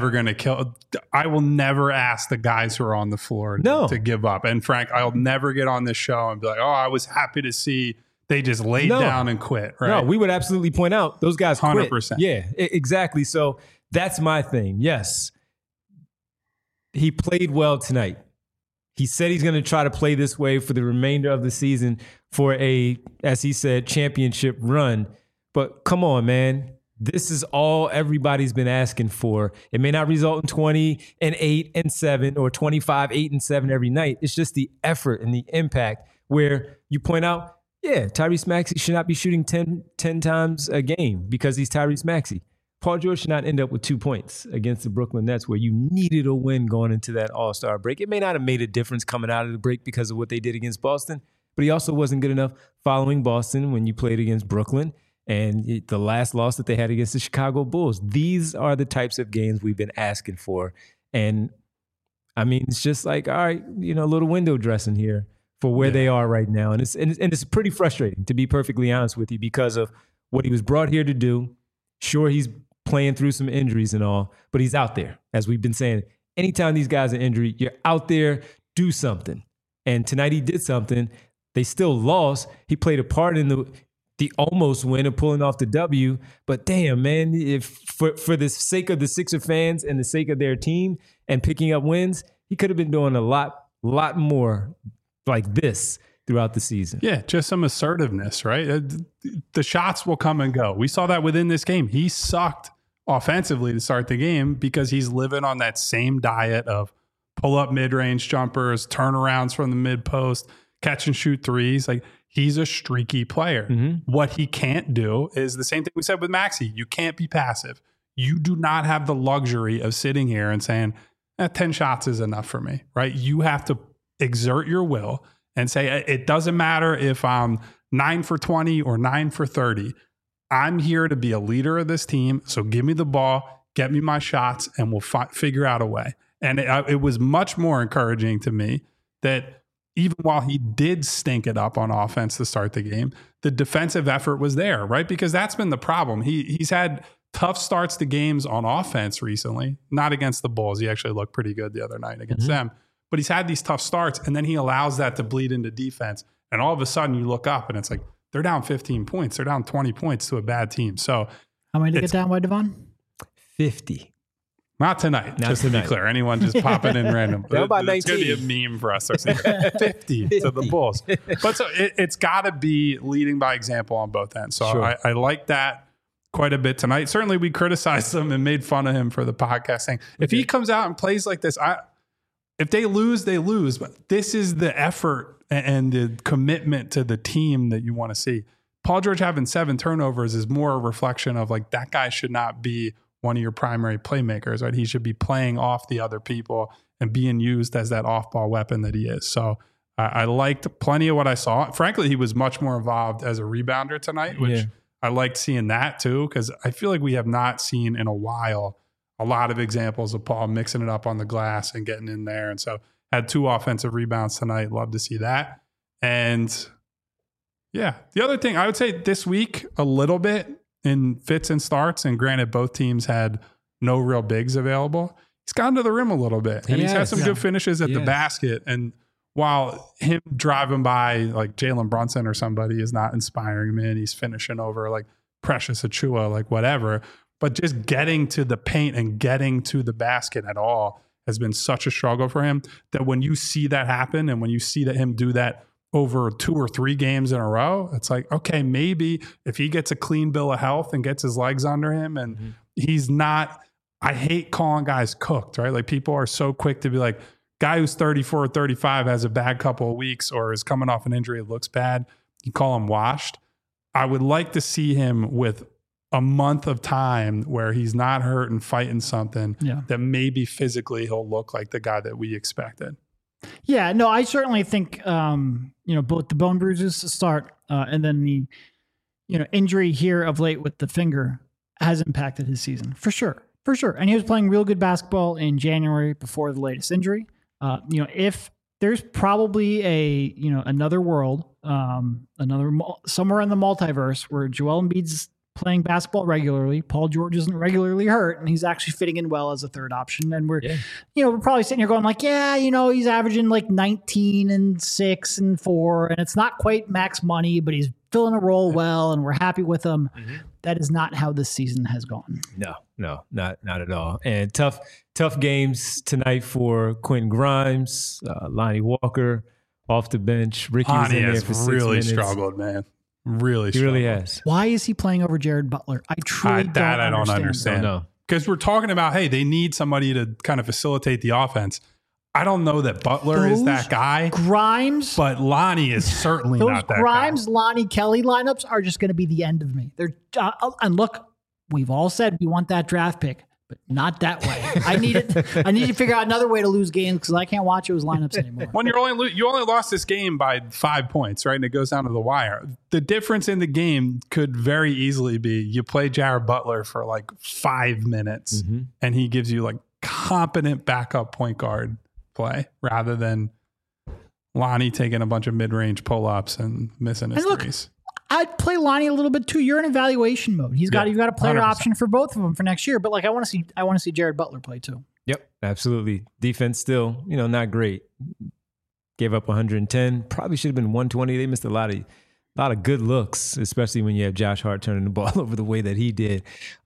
I will never ask the guys who are on the floor to give up. And Frank, I'll never get on this show and be like, oh, I was happy to see they just laid down and quit. Right? No, we would absolutely point out those guys quit. 100%. Yeah, exactly. So that's my thing. Yes. He played well tonight. He said he's going to try to play this way for the remainder of the season for a, as he said, championship run. But come on, man. This is all everybody's been asking for. It may not result in 20 and 8 and 7 or 25, 8 and 7 every night. It's just the effort and the impact where you point out, yeah, Tyrese Maxey should not be shooting 10 times a game because he's Tyrese Maxey. Paul George should not end up with 2 points against the Brooklyn Nets where you needed a win going into that All-Star break. It may not have made a difference coming out of the break because of what they did against Boston, but he also wasn't good enough following Boston when you played against Brooklyn and the last loss that they had against the Chicago Bulls. These are the types of games we've been asking for. And I mean, it's just like, all right, a little window dressing here for where they are right now. And it's pretty frustrating, to be perfectly honest with you, because of what he was brought here to do. Sure, he's playing through some injuries and all, but he's out there. As we've been saying, anytime these guys are injured, you're out there, do something. And tonight he did something. They still lost. He played a part in the almost win of pulling off the W. But damn, man, if for the sake of the Sixer fans and the sake of their team and picking up wins, he could have been doing a lot more like this throughout the season. Yeah, just some assertiveness, right? The shots will come and go. We saw that within this game. He sucked offensively to start the game because he's living on that same diet of pull-up mid-range jumpers, turnarounds from the mid-post, catch and shoot threes. Like, he's a streaky player. Mm-hmm. What he can't do is the same thing we said with Maxey. You can't be passive. You do not have the luxury of sitting here and saying, 10 shots is enough for me, right? You have to exert your will and say, it doesn't matter if I'm 9 for 20 or 9 for 30. I'm here to be a leader of this team. So give me the ball, get me my shots, and we'll figure out a way. And it was much more encouraging to me that even while he did stink it up on offense to start the game, the defensive effort was there, right? Because that's been the problem. He's had tough starts to games on offense recently, not against the Bulls. He actually looked pretty good the other night against them. But he's had these tough starts, and then he allows that to bleed into defense. And all of a sudden you look up and it's like, they're down 15 points. They're down 20 points to a bad team. So how many to get down by, Devon? 50. Not tonight, just to be clear. Anyone just popping in random. It's going to be a meme for us. 50 to the Bulls. But so it's got to be leading by example on both ends. So sure. I like that quite a bit tonight. Certainly we criticized him and made fun of him for the podcast saying, if he comes out and plays like this, if they lose, they lose. But this is the effort and the commitment to the team that you want to see. Paul George having 7 turnovers is more a reflection of like, that guy should not be one of your primary playmakers, right? He should be playing off the other people and being used as that off-ball weapon that he is. So I liked plenty of what I saw. Frankly, he was much more involved as a rebounder tonight, which I liked seeing that too, because I feel like we have not seen in a while a lot of examples of Paul mixing it up on the glass and getting in there. And so had 2 offensive rebounds tonight. Love to see that. And yeah, the other thing I would say this week a little bit in fits and starts, and granted both teams had no real bigs available, he's gotten to the rim a little bit. And he's had some good finishes at the basket. And while him driving by like Jalen Brunson or somebody is not inspiring me, and he's finishing over like Precious Achiuwa, like whatever, but just getting to the paint and getting to the basket at all has been such a struggle for him, that when you see that happen and when you see that him do that over 2 or 3 games in a row, it's like, okay, maybe if he gets a clean bill of health and gets his legs under him and he's not, I hate calling guys cooked, right? Like people are so quick to be like, guy who's 34 or 35 has a bad couple of weeks or is coming off an injury, it looks bad, you call him washed. I would like to see him with a month of time where he's not hurt and fighting something that maybe physically he'll look like the guy that we expected. Yeah, no, I certainly think, both the bone bruises to start and then the, injury here of late with the finger has impacted his season for sure. For sure. And he was playing real good basketball in January before the latest injury. If there's probably another world, somewhere in the multiverse where Joel Embiid's playing basketball regularly, Paul George isn't regularly hurt, and he's actually fitting in well as a third option. And we're probably sitting here going like, he's averaging like 19 and 6 and 4, and it's not quite max money, but he's filling a role well, and we're happy with him. That is not how this season has gone. No, not at all. And tough games tonight for Quentin Grimes, Lonnie Walker off the bench. Ricky was in there for 6 really minutes. Struggled, man. He really has. Why is he playing over Jared Butler? I don't understand. No. Because we're talking about, hey, they need somebody to kind of facilitate the offense. I don't know that Butler is that guy. Grimes. But Lonnie is certainly not that Grimes, guy. Lonnie, Kelly lineups are just going to be the end of me. They're and look, we've all said we want that draft pick, but not that way. I need to figure out another way to lose games because I can't watch those lineups anymore. When you only lost this game by 5 points, right? And it goes down to the wire. The difference in the game could very easily be you play Jared Butler for like 5 minutes and he gives you like competent backup point guard play rather than Lonnie taking a bunch of mid-range pull-ups and missing his threes. I'd play Lonnie a little bit too. You're in evaluation mode. You've got a player 100%. Option for both of them for next year. But like I want to see Jared Butler play too. Yep, absolutely. Defense still, not great. Gave up 110. Probably should have been 120. They missed a lot of good looks, especially when you have Josh Hart turning the ball over the way that he did,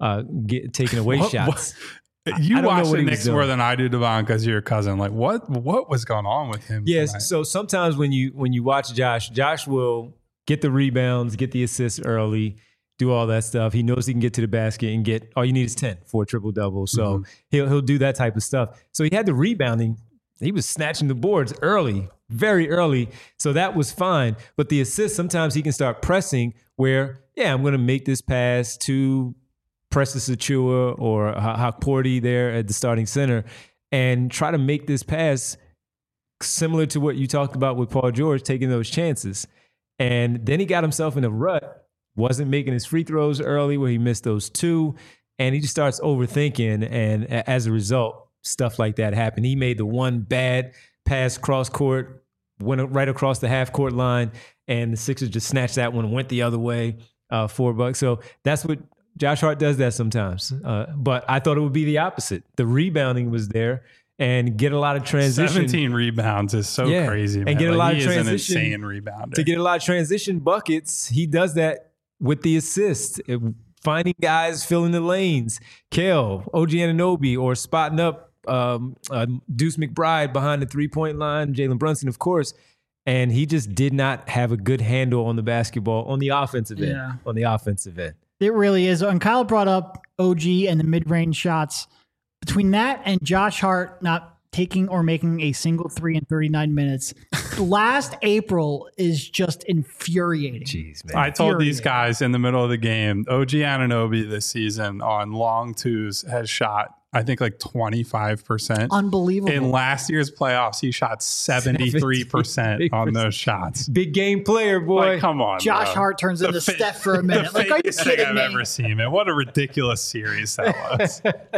taking away shots. You watch the Knicks more than I do, Devon, because you're your cousin. Like, what was going on with him? Yes. Tonight? So sometimes when you watch Josh will get the rebounds, get the assists early, do all that stuff. He knows he can get to the basket and get all you need is 10 for a triple-double. So he'll do that type of stuff. So he had the rebounding. He was snatching the boards early, very early. So that was fine. But the assists, sometimes he can start pressing where, I'm going to make this pass to Precious Achiuwa or Hakporti there at the starting center and try to make this pass similar to what you talked about with Paul George, taking those chances. And then he got himself in a rut, wasn't making his free throws early where he missed those 2, and he just starts overthinking. And as a result, stuff like that happened. He made the one bad pass cross court, went right across the half court line, and the Sixers just snatched that one and went the other way, $4. So that's what Josh Hart does that sometimes. But I thought it would be the opposite. The rebounding was there. And get a lot of transition. 17 rebounds is so crazy, man. And get a lot of transition. He is an insane rebounder. To get a lot of transition buckets, he does that with the assist. Finding guys filling the lanes. Kel, OG Anunoby, or spotting up Deuce McBride behind the three-point line. Jalen Brunson, of course. And he just did not have a good handle on the basketball on the offensive end. Yeah. On the offensive end. It really is. And Kyle brought up OG and the mid-range shots. Between that and Josh Hart not taking or making a single 3 in 39 minutes, last April is just infuriating. Jeez, man. I told these guys in the middle of the game, OG Anunoby this season on long twos has shot I think like 25%. Unbelievable. In last year's playoffs, he shot 73% on those shots. Big game player, boy. Like, come on, Josh bro. Hart turns into Steph for a minute. The Like, are you fakest thing kidding I've me? ever seen, man. What a ridiculous series that was.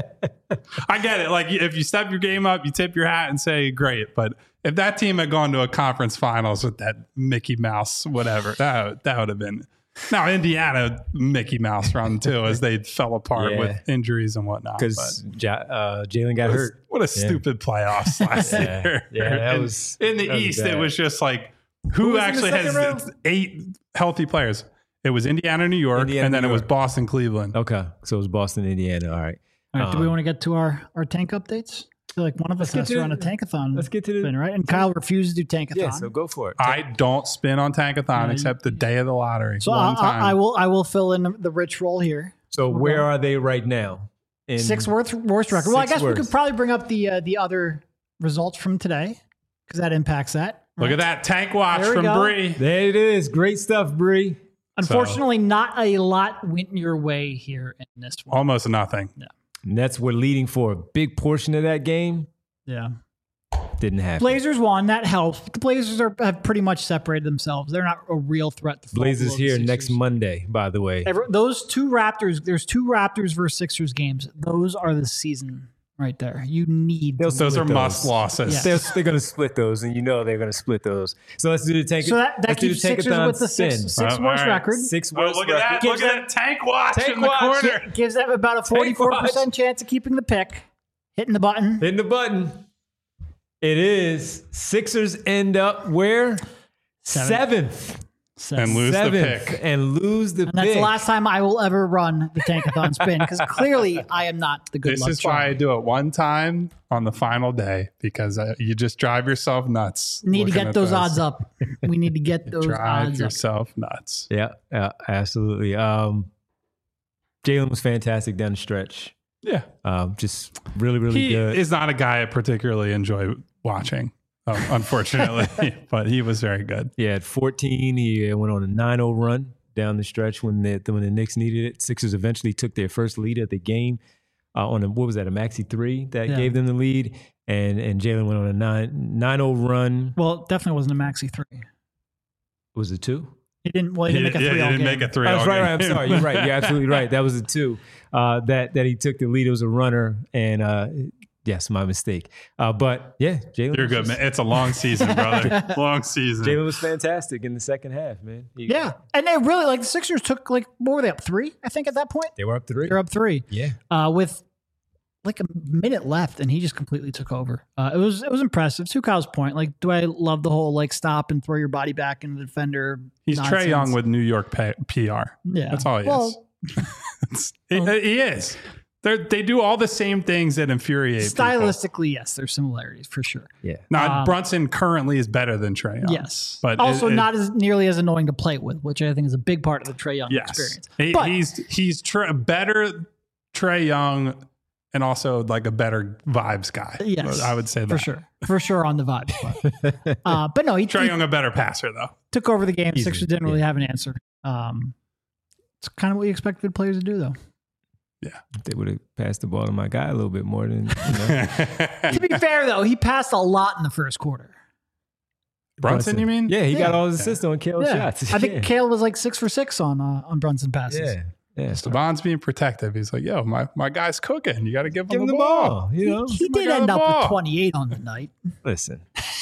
I get it. Like, if you step your game up, you tip your hat and say, great. But if that team had gone to a conference finals with that Mickey Mouse, whatever, that would have been. Now, Indiana Mickey Mouse run too, as they fell apart with injuries and whatnot. Because Jalen got hurt. What a stupid playoffs last year. Yeah, that And was in the that was East. bad. It was just like Who who was in the actually second has round? 8 healthy players. It was Indiana, New York, Indiana, and then New it was York. Boston, Cleveland. Okay, so it was Boston, Indiana. All right. All right, do we want to get to our tank updates? I feel like one of us get has to to run a the- tankathon. Let's get to the spin, right? And Kyle refuses to do tankathon. Yeah, so go for it. I don't spin on Tankathon except the day of the lottery. So one time. I will fill in the rich role here. So where are they right now? In Sixth worst record. Well, I Sixth guess we worst. could probably bring up the other results from today because that impacts that. Look at that tank watch There we from go. Bree. There it is. Great stuff, Bree. Unfortunately, not a lot went your way here in this one. Almost nothing. Nets were leading for a big portion of that game. Yeah. Didn't happen. Blazers won. That helps. The Blazers have pretty much separated themselves. They're not a real threat to fall Blazers below the here Sixers. next Monday, by the way. Those two Raptors, there's two Raptors versus Sixers games. Those are the season right there. You need They'll to Those split are must losses. Yeah. They're going to split those, and you know they're going to split those. So let's do the tank. So that let's do keeps the Sixers tankathon with the spin. six All worst right. record. Six Oh, worst look at that. record. Look at that tank watch Tank in the watch. corner. Gives them about a Tank 44% watch. chance of keeping the pick. Hitting the button. Hitting the button. It is Sixers end up where? Seventh. And lose the Seventh. pick. And lose the And that's pick. the last time I will ever run the tankathon spin because clearly I am not the good This luck is why I charm. do it one time on the final day because you just drive yourself nuts. Need to looking get at those odds up. We need to get those Drive odds up. yourself nuts. Yeah, absolutely. Jalen was fantastic down the stretch. Yeah. Just really, really He good. is not a guy I particularly enjoy watching, unfortunately, but he was very good. Yeah, at 14, he went on a 9-0 run down the stretch when the Knicks needed it. Sixers eventually took their first lead of the game on a maxi 3 that Yeah. gave them the lead, and Jalen went on a 9-0 run. Well, it definitely wasn't a maxi 3. Was it 2? He didn't make a 3 he all didn't game. make a 3 Oh, all that's right, game. right. I'm sorry. You're right. You're absolutely right. That was a 2 that he took the lead. It was a runner, and yes, my mistake. But yeah, Jalen. You're was good, just- man. It's a long season, brother. Long season. Jalen was fantastic in the second half, man. Yeah. And they really, like, the Sixers took, like, what were they up 3, I think, at that point? They were up 3. They're up 3. Yeah. With like a minute left, and he just completely took over. It was impressive. To Kyle's point, like, do I love the whole like stop and throw your body back into the defender? He's nonsense? Trae Young with New York PR. Yeah, That's all he is. He is. They do all the same things that infuriate people. Stylistically, yes, there's similarities for sure. Yeah. Now, Brunson currently is better than Trae Young. Yes, But also not as nearly as annoying to play with, which I think is a big part of the Trae Young experience. But He's better Trae Young and also like a better vibes guy. yes, I would say that. for sure on the vibe. But no, he Trae Young a better passer though. took over the game. Easily, Sixers didn't really have an answer. It's kind of what you expect good players to do, though. Yeah. If they would have passed the ball to my guy a little bit more than, To be fair, though, he passed a lot in the first quarter. Brunson, you mean? Yeah, he got Yeah. all his assists on Kale shots. I think Yeah. Kale was like 6 for 6 on Brunson passes. Yeah. Yeah. Stevan's being protective. He's like, yo, my guy's cooking. You got to give Give him him the ball. You know, He my did guy end the up ball. with 28 on the night. listen,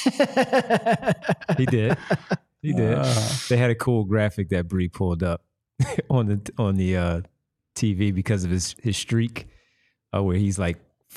he did. He did. They had a cool graphic that Bree pulled up on the TV because of his streak, where he's like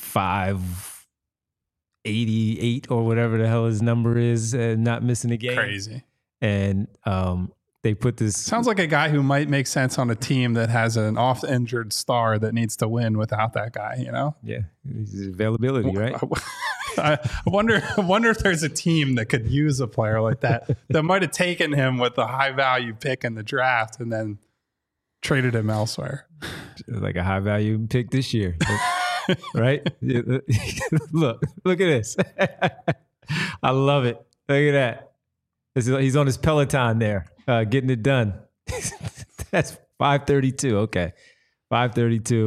588 or whatever the hell his number is, not missing a game. Crazy. And they put this. Sounds like a guy who might make sense on a team that has an oft-injured star that needs to win without that guy, you know? Yeah, his availability, right? I wonder if there's a team that could use a player like that might have taken him with a high-value pick in the draft and then traded him elsewhere. Like a high value pick this year, right? Look at this. I love it. Look at that. He's on his Peloton there, getting it done. That's 5:32. Okay, 5:32.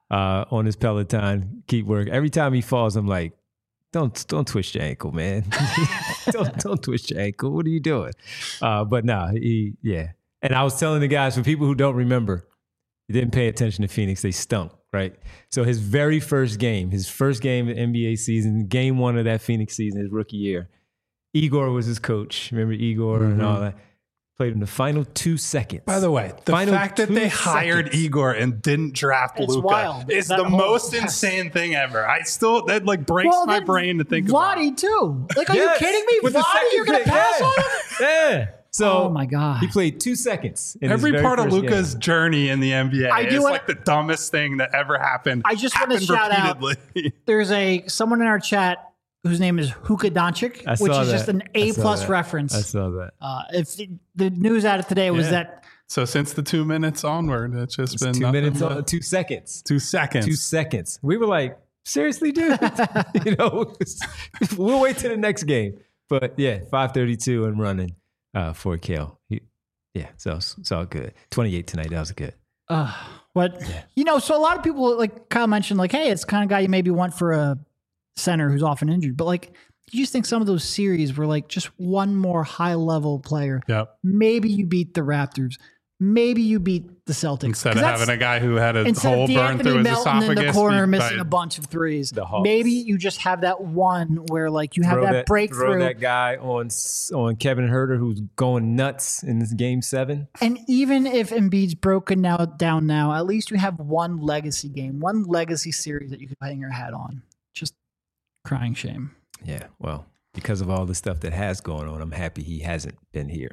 on his Peloton. Keep working. Every time he falls, I'm like, don't twist your ankle, man. don't twist your ankle. What are you doing? But no, yeah. And I was telling the guys, for people who don't remember, he didn't pay attention to Phoenix. They stunk, right? So his very first game of the NBA season, game one of that Phoenix season, his rookie year, Igor was his coach. Remember Igor and all that? Played in the final 2 seconds. By the way, the fact that they hired Igor and didn't draft Luka is the most insane thing ever. That like breaks my brain to think about. Vlade too. Like, are you kidding me? Vlade, you're going to pass on him? Yeah. So, oh my God. He played 2 seconds. Every part of Luka's journey in the NBA is like the dumbest thing that ever happened. I just want to shout out. There's someone in our chat whose name is Huka Doncic, which is just an A+ reference. I saw that. If the news out of today was that. So since the 2 minutes onward, it's just been 2 minutes on 2 seconds. 2 seconds. 2 seconds. We were like, seriously, dude? We'll wait till the next game. But yeah, 5:32 and running for Kale. So it's all good. 28 tonight. That was good. So a lot of people, like Kyle mentioned, like, hey, it's the kind of guy you maybe want for a center who's often injured, but like, you just think some of those series were like just one more high level player. Yep. Maybe you beat the Raptors. Maybe you beat the Celtics. Instead of having a guy who had a hole burned through his esophagus. In the corner missing a bunch of threes. Maybe you just have that one where like you have that breakthrough. Throw that guy on Kevin Huerter who's going nuts in this game 7. And even if Embiid's broken down now, at least you have one legacy game, one legacy series that you can hang your hat on. Just crying shame. Yeah, well, because of all the stuff that has going on, I'm happy he hasn't been here.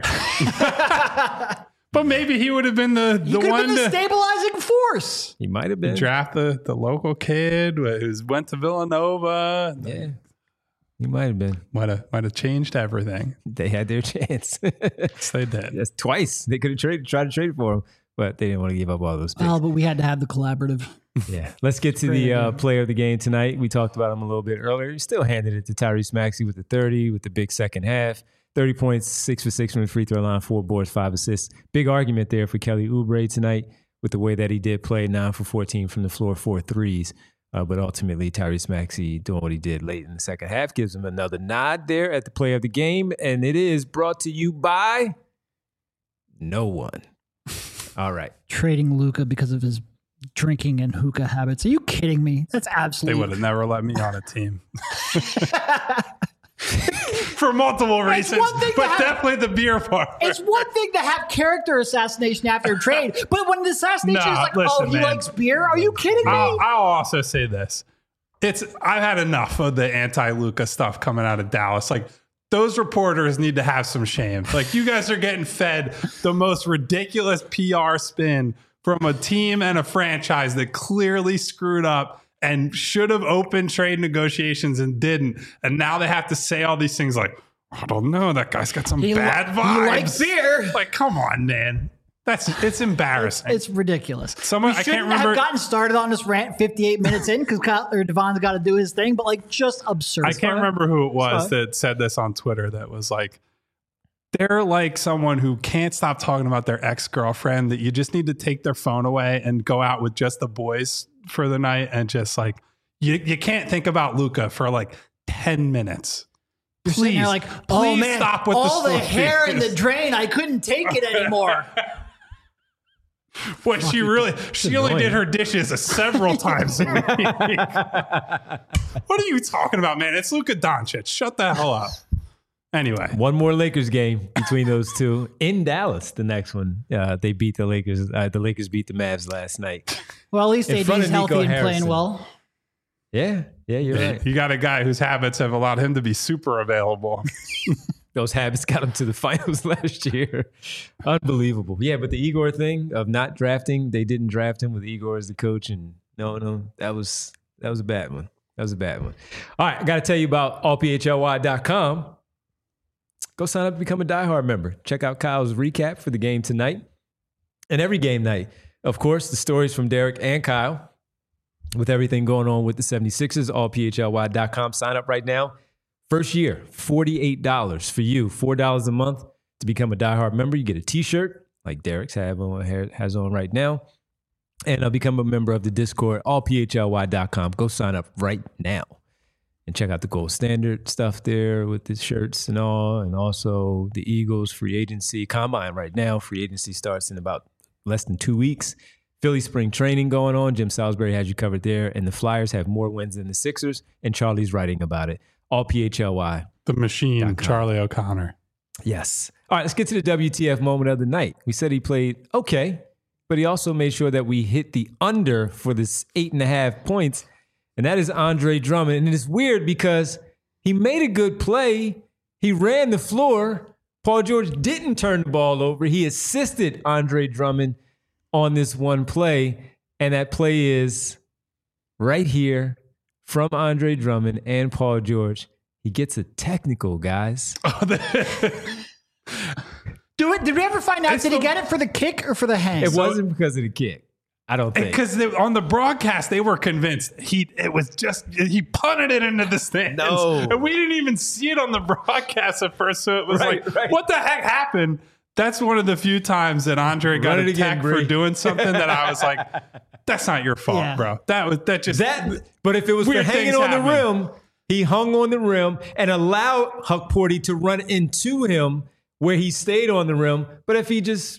But maybe he would have been the one been the stabilizing force. He might have been. Draft the local kid who went to Villanova. Yeah, he might have been. Might have changed everything. They had their chance. Yes, they did. Yes, twice. They could have tried to trade for him, but they didn't want to give up all those picks. Oh, but we had to have the collaborative. Yeah. Let's get to the player of the game tonight. We talked about him a little bit earlier. He still handed it to Tyrese Maxey with the 30, with the big second half. 30 points, 6 for 6 from the free throw line, 4 boards, 5 assists. Big argument there for Kelly Oubre tonight with the way that he did play, 9 for 14 from the floor, 4 threes. But ultimately, Tyrese Maxey doing what he did late in the second half gives him another nod there at the player of the game. And it is brought to you by no one. All right. Trading Luka because of his drinking and hookah habits. Are you kidding me? That's absolutely. They would have never let me on a team. For multiple reasons, but definitely the beer part. It's one thing to have character assassination after a trade, but when the assassination is like, he likes beer, are you kidding me? I'll also say this. I've had enough of the anti-Luka stuff coming out of Dallas. Like, those reporters need to have some shame. Like, you guys are getting fed the most ridiculous PR spin from a team and a franchise that clearly screwed up and should have opened trade negotiations and didn't. And now they have to say all these things like, I don't know, that guy's got some bad vibes. He likes beer. Like, come on, man. It's embarrassing. It's ridiculous. I can't remember. Have gotten started on this rant 58 minutes in because Devon's got to do his thing, but like just absurd. I can't remember who it was that said this on Twitter that was like, they're like someone who can't stop talking about their ex-girlfriend, that you just need to take their phone away and go out with just the boys for the night, and just like you can't think about Luka for like 10 minutes. You're sitting there like, oh man, stop with all the hair in the drain. I couldn't take it anymore. Boy, she only did her dishes several times a week. What are you talking about, man? It's Luka Doncic. Shut the hell up. Anyway, one more Lakers game between those two in Dallas. The next one, they beat the Lakers. The Lakers beat the Mavs last night. Well, at least AD's healthy and playing well. Yeah, you're right. You got a guy whose habits have allowed him to be super available. Those habits got him to the finals last year. Unbelievable. Yeah, but the Igor thing of not drafting, they didn't draft him with Igor as the coach, and no, that was a bad one. That was a bad one. All right, I got to tell you about allphly.com. Go sign up to become a diehard member. Check out Kyle's recap for the game tonight and every game night. Of course, the stories from Derek and Kyle with everything going on with the 76ers, allphly.com. Sign up right now. First year, $48 for you, $4 a month to become a diehard member. You get a t-shirt like Derek's has on right now. and become a member of the Discord, allphly.com. Go sign up right now and check out the Gold Standard stuff there with the shirts and all, and also the Eagles free agency combine right now. Free agency starts in about less than 2 weeks. Philly spring training going on. Jim Salisbury has you covered there, and the Flyers have more wins than the Sixers, and Charlie's writing about it. Allphly. The machine, Charlie O'Connor. Yes. All right, let's get to the WTF moment of the night. We said he played okay, but he also made sure that we hit the under for this 8.5 points, and that is Andre Drummond. And it's weird because he made a good play. He ran the floor. Paul George didn't turn the ball over. He assisted Andre Drummond on this one play, and that play is right here from Andre Drummond and Paul George. He gets a technical, guys. Did we ever find out? Did he get it for the kick or for the hang? It wasn't because of the kick. I don't think. Because on the broadcast, they were convinced he punted it into the stands. No. And we didn't even see it on the broadcast at first. So it was Right. What the heck happened? That's one of the few times that Andre got Run it attacked again, for Bree. doing something that I was like, that's not your fault, bro. But if it was for Weird hanging things on the happen. rim, he hung on the rim and allowed Huck Porty to run into him where he stayed on the rim. But if he just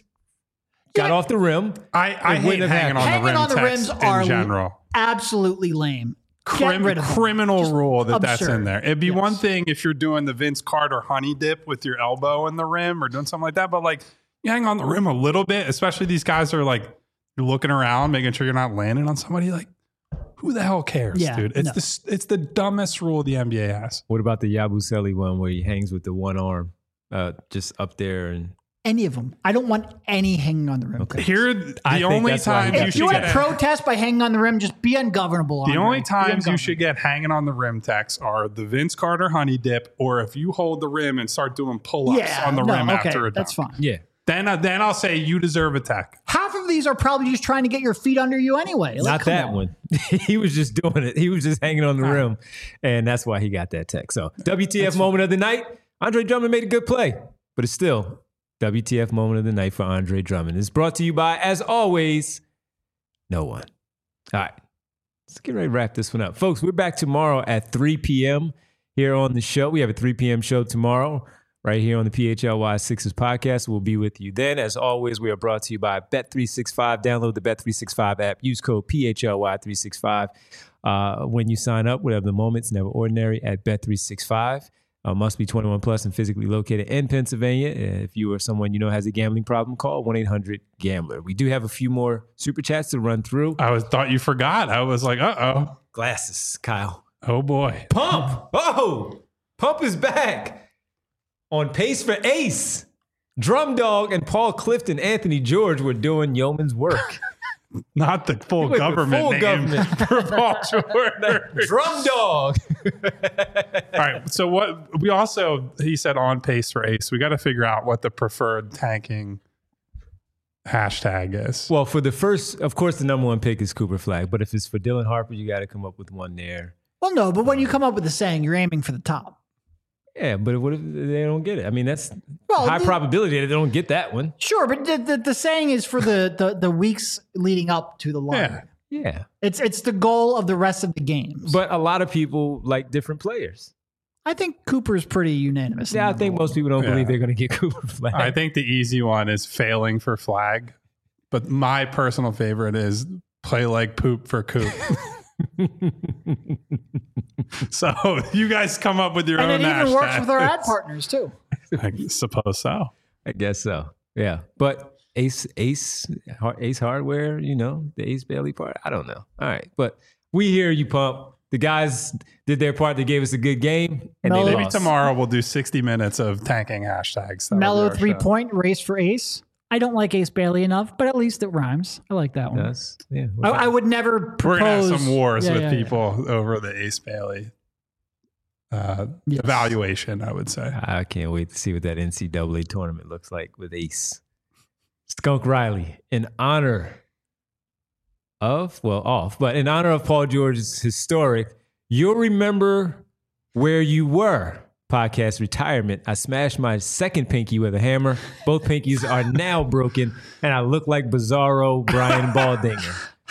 got off the rim, I it hate wouldn't have hanging on Hanging the rim on the rims text are in general. absolutely lame. Get rid of them. Criminal Just rule that's absurd. in there. It'd be Yes. one thing if you're doing the Vince Carter honey dip with your elbow in the rim or doing something like that, but like you hang on the rim a little bit, especially these guys are like you're looking around, making sure you're not landing on somebody. Like, who the hell cares, Yeah, dude? It's the dumbest rule the NBA has. what about the Yabusele one where he hangs with the one arm just up there? And Any of them. I don't want any hanging on the rim. Okay. Here, I the think only that's why he time got you If should you want get to protest by hanging on the rim, just be ungovernable. the Andre. only Be times you ungovernable. should get hanging on the rim text are the Vince Carter honey dip, or if you hold the rim and start doing pull-ups on the rim okay, after a dunk. that's fine. yeah. Then I'll say you deserve a tech. Half of these are probably just trying to get your feet under you anyway. Like, Not come that on. one. He was just doing it. He was just hanging on the rim, and that's why he got that text. So WTF moment of the night, Andre Drummond made a good play, but it's still WTF moment of the night for Andre Drummond. It's brought to you by, as always, no one. All right, let's get ready to wrap this one up. Folks, we're back tomorrow at 3 p.m. here on the show. We have a 3 p.m. show tomorrow right here on the PHLY Sixers podcast. We'll be with you then. As always, we are brought to you by Bet365. Download the Bet365 app. Use code PHLY365 when you sign up. Whatever the moment's never ordinary at Bet365. Must be 21 plus and physically located in Pennsylvania. If you or someone you know has a gambling problem, call 1-800-GAMBLER. We do have a few more super chats to run through. Thought you forgot. I was like, uh-oh. Glasses, Kyle. Oh, boy. Pump. Oh, Pump is back. On pace for ace. Drum Dog and Paul Clifton, Anthony George were doing yeoman's work. Not the full went the government full name government. for Paul George. Drum Dog. All right. So what we also, he said on pace for ace. We got to figure out what the preferred tanking hashtag is. Well, for the first, of course, the number one pick is Cooper Flag. But if it's for Dylan Harper, you got to come up with one there. Well, no, but when you come up with a saying, you're aiming for the top. Yeah, but what if they don't get it? I mean, that's Well, high probability that they don't get that one. Sure, but the saying is for the weeks leading up to the lottery. Yeah. Yeah. It's the goal of the rest of the games. But a lot of people like different players. I think Cooper's pretty unanimous. Yeah, I think most people don't believe they're going to get Cooper Flag. I think the easy one is failing for flag. But my personal favorite is play like poop for Coop. So you guys come up with your and own it even works hashtags. with our ad partners too. I suppose so. I guess so. Yeah. But Ace Hardware, you know, the Ace Bailey part. I don't know. All right. But we hear you, Pump. The guys did their part. They gave us a good game. And they Maybe lost. tomorrow we'll do 60 minutes of tanking hashtags. That'll be Mellow our 3-point race for Ace. I don't like Ace Bailey enough, but at least it rhymes. I like that one. Yes. Yeah. I would never show. propose. We're going to have some wars Yeah, with yeah, people over the Ace Bailey Yes. evaluation, I would say. I can't wait to see what that NCAA tournament looks like with Ace. Skunk Riley, in honor of Paul George's historic You'll Remember Where You Were podcast retirement. I smashed my second pinky with a hammer. Both pinkies are now broken, and I look like Bizarro Brian Baldinger.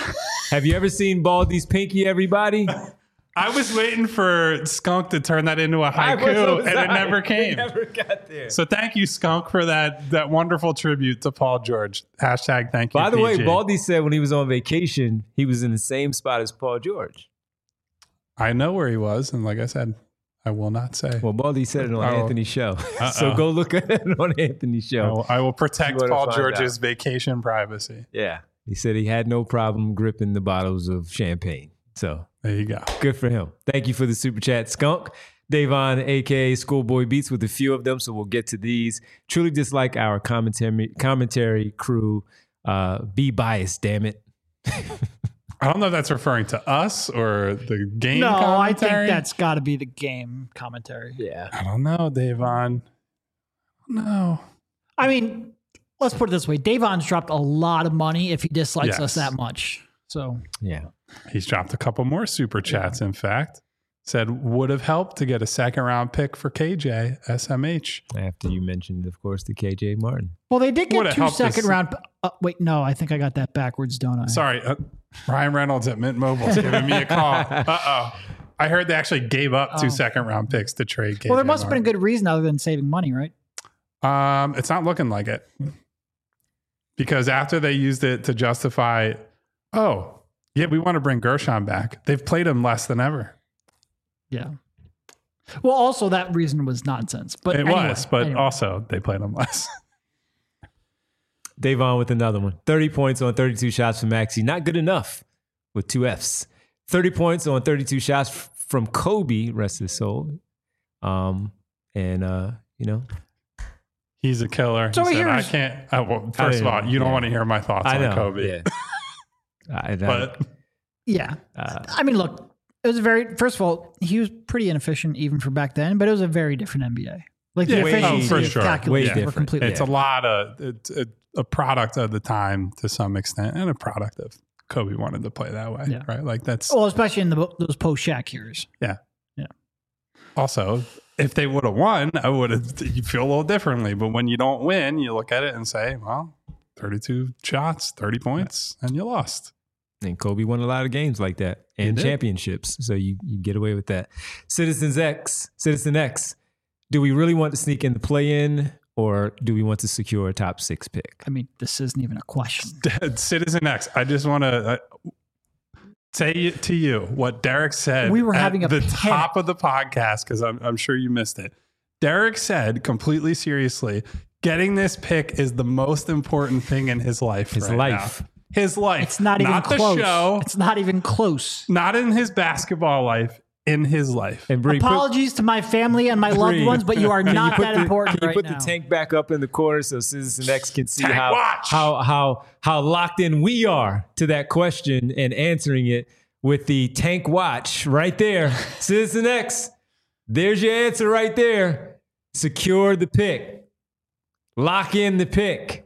Have you ever seen Baldy's pinky, everybody? I was waiting for Skunk to turn that into a haiku, and it never came. It never got there. So thank you, Skunk, for that wonderful tribute to Paul George. Hashtag thank you, By the way, PG. Baldy said when he was on vacation, he was in the same spot as Paul George. I know where he was, and like I said, I will not say. Well, Baldy said it on Oh. Anthony's show. So go look at it on Anthony's show. I will protect You wanna Paul find George's out. vacation privacy. Yeah. He said he had no problem gripping the bottles of champagne. So There you go. good for him. Thank you for the super chat, Skunk. Davon, aka Schoolboy Beats, with a few of them, so we'll get to these. Truly dislike our commentary crew. Be biased, damn it. I don't know if that's referring to us or the game No, I think commentary. that's got to be the game commentary. Yeah. I don't know, Davon. No. I mean, let's put it this way: Davon's dropped a lot of money if he dislikes us Yes. that much. So Yeah. He's dropped a couple more super chats, in fact. Said would have helped to get a second round pick for KJ, SMH. After you mentioned, of course, the KJ Martin. well, they did Would get it 2 help second us- round. Wait, no, I think I got that backwards, don't I? Sorry, Ryan Reynolds at Mint Mobile is giving me a call. Uh-oh. I heard they actually gave up 2 second round picks to trade KJ. Well, there must have been a Martin. good reason other than saving money, right? It's not looking like it. Because after they used it to justify, oh, yeah, we want to bring Gershon back. They've played him less than ever. Yeah. Well, also that reason was nonsense. But It anyway, was, but anyway. also they played him less. Davon with another one. 30 points on 32 shots from Maxey. Not good enough with 2 Fs. 30 points on 32 shots from Kobe, rest his soul. You know, He's a killer. So He said, I here's- can't. Well, first of all, you don't want to hear my thoughts I know. on Kobe. Yeah. But Yeah. I mean, look, it was a very, first of all, he was pretty inefficient even for back then, but it was a very different NBA. Like the Yeah, efficiency for of sure. calculations Way were different. completely it's a lot of, it's a product of the time to some extent and a product of Kobe wanted to play that way, Yeah. right? Like that's, Well, especially in those post Shaq years. yeah. Yeah. Also, if they would have won, I would have, you feel a little differently. But when you don't win, you look at it and say, well, 32 shots, 30 points, and you lost. And Kobe won a lot of games like that and did. championships. So you get away with that. Citizen X, do we really want to sneak in the play-in or do we want to secure a top 6 pick? I mean, this isn't even a question. Citizen X, I just want to say to you what Derek said We were at having a the panic. top of the podcast because I'm sure you missed it. Derek said completely seriously, getting this pick is the most important thing in his life. His right life. now. His life. It's not even the close. show. It's not even close. Not in his basketball life. In his life. And Bree, Apologies to my family and my loved Bree, ones, but you are can not put that the- important Can you right put now. the tank back up in the corner so Citizen X can see Tank watch. how locked in we are to that question and answering it with the tank watch right there. Citizen X, there's your answer right there. Secure the pick. Lock in the pick.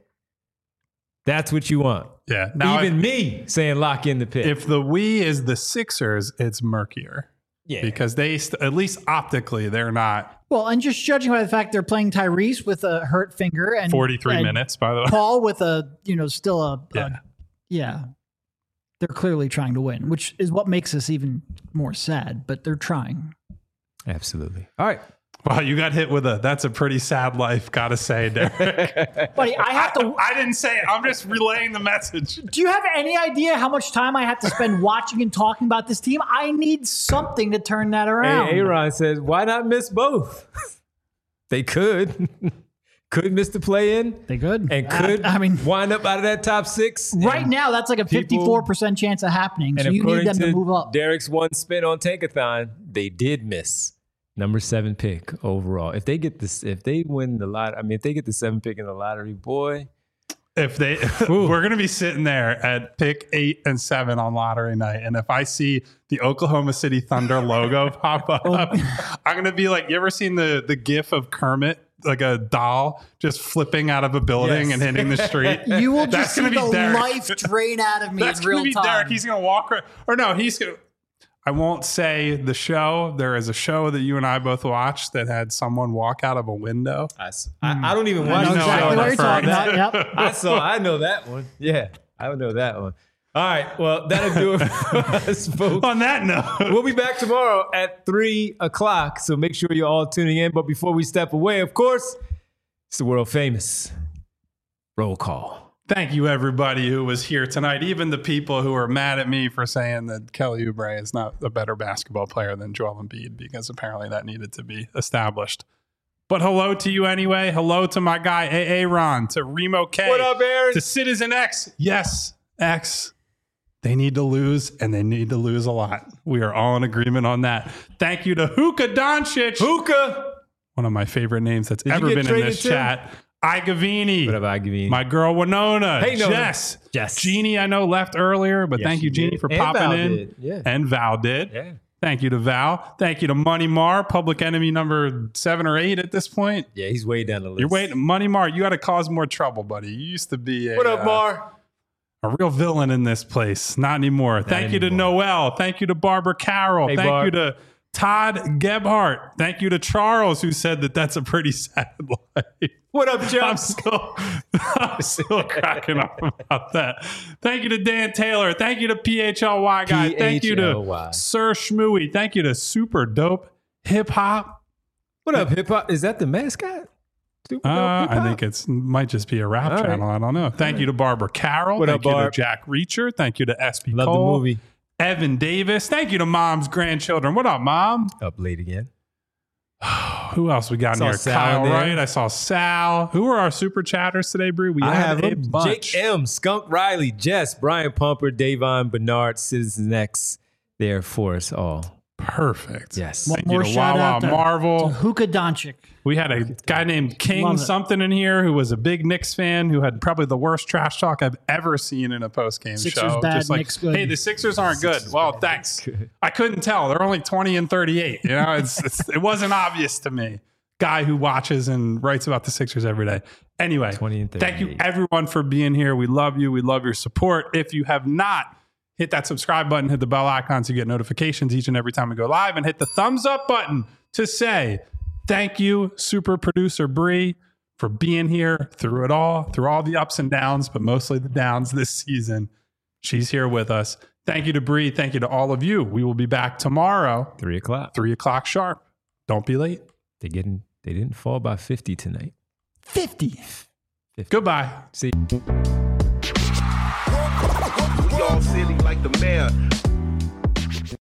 That's what you want. Yeah. Now, Even me saying lock in the pick. if the we is the Sixers, it's murkier. Yeah. Because they, at least optically, they're not Well, and just judging by the fact they're playing Tyrese with a hurt finger and 43 and minutes, by the way. Paul with a, still a Yeah. yeah. They're clearly trying to win, which is what makes us even more sad, but they're trying. Absolutely. All right. Wow, you got hit with that's a pretty sad life, gotta say, Derek. Buddy, I have to. I didn't say it. I'm just relaying the message. Do you have any idea how much time I have to spend watching and talking about this team? I need something to turn that around. Hey, Aaron says, why not miss both? They could. Could miss the play in They could. and could I mean, wind up out of that top 6. right And- now, that's like a people- 54% chance of happening. So and you need according them to to move up. Derek's one spin on Tankathon, they did miss number 7 pick overall. If they get this, if they win the lot, I mean, if they get the 7 pick in the lottery, boy, If they, we're going to be sitting there at pick 8 and 7 on lottery night. And if I see the Oklahoma City Thunder logo pop up, I'm going to be like, you ever seen the gif of Kermit, like a doll just flipping out of a building Yes. and hitting the street? You will That's just see gonna be the Derek. life drain out of me That's in going real to be time. Derek. He's going to walk, or no, he's going to, I won't say the show. There is a show that you and I both watched that had someone walk out of a window. I don't even I watch know the know show. exactly what you're that's talking right. about. Yep. I know that one. Yeah, I know that one. All right. Well, that'll do it for us, folks. On that note, We'll be back tomorrow at 3 o'clock. So make sure you're all tuning in. But before we step away, of course, it's the world famous roll call. thank you everybody who was here tonight. Even the people who are mad at me for saying that Kelly Oubre is not a better basketball player than Joel Embiid, because apparently that needed to be established. But hello to you anyway. Hello to my guy Aaron, to Remo K. What up, Aaron? To Citizen X. Yes, X. They need to lose, and they need to lose a lot. We are all in agreement on that. Thank you to Hookah Doncic. Hookah. One of my favorite names that's Did you ever get been in traded this too? chat. Igavini. What up, Igavini? My girl Winona. Hey, Nona. Jess. Jess. Jeannie, I know, left earlier, but Yes, thank you, she Jeannie, did. for And popping Val in. did. Yeah. And Val did. Yeah. Thank you to Val. Thank you to Money Mar, public enemy number 7 or 8 at this point. Yeah, he's way down the list. You're waiting. Money Mar, you got to cause more trouble, buddy. You used to be What up, Mar? a real villain in this place. Not anymore. Thank you to Noel. Thank you to Barbara Carroll. Hey, Thank Barb. you to Todd Gebhardt. Thank you to Charles, who said that that's a pretty sad life. What up, I'm Jumps? still cracking up about that. Thank you to Dan Taylor. Thank you to PHLY guy. Thank you to PHLY. Sir Schmooey. Thank you to Super Dope Hip Hop. What up, hip hop? Is that the mascot? Super dope I hip-hop? think it's might just be a rap All channel. I don't know. Thank you to Barbara Carroll. What Thank up, you Barb? to Jack Reacher. Thank you to SB Love Cole. the movie. Evan Davis. Thank you to Mom's grandchildren. What up, Mom? Up late again. Who else we got in Saw here? Sal Kyle there. Wright. I saw Sal. Who are our super chatters today, Bree? We I have a them. bunch. Jake M, Skunk Riley, Jess, Brian Pumper, Davon Bernard, Citizen X there for us all. Perfect. Yes. One Thank you more to shout Wawa out to Marvel. Hookah Doncic. We had a guy named King Love it. something in here who was a big Knicks fan who had probably the worst trash talk I've ever seen in a post-game Sixers show. bad, Just like, Knicks good. hey, the Sixers aren't good. Well, thanks. good. I couldn't tell. They're only 20 and 38. You know, it wasn't obvious to me. Guy who watches and writes about the Sixers every day. Anyway, 20 and thank you 38. everyone for being here. We love you. We love your support. If you have not, hit that subscribe button, hit the bell icon so you get notifications each and every time we go live, and hit the thumbs up button to say thank you, super producer Bree, for being here through it all, through all the ups and downs, but mostly the downs this season. She's here with us. Thank you to Bree. Thank you to all of you. We will be back tomorrow, 3 o'clock. 3 o'clock sharp. Don't be late. They didn't fall by 50 tonight. 50. Goodbye. See. We all silly like the mayor.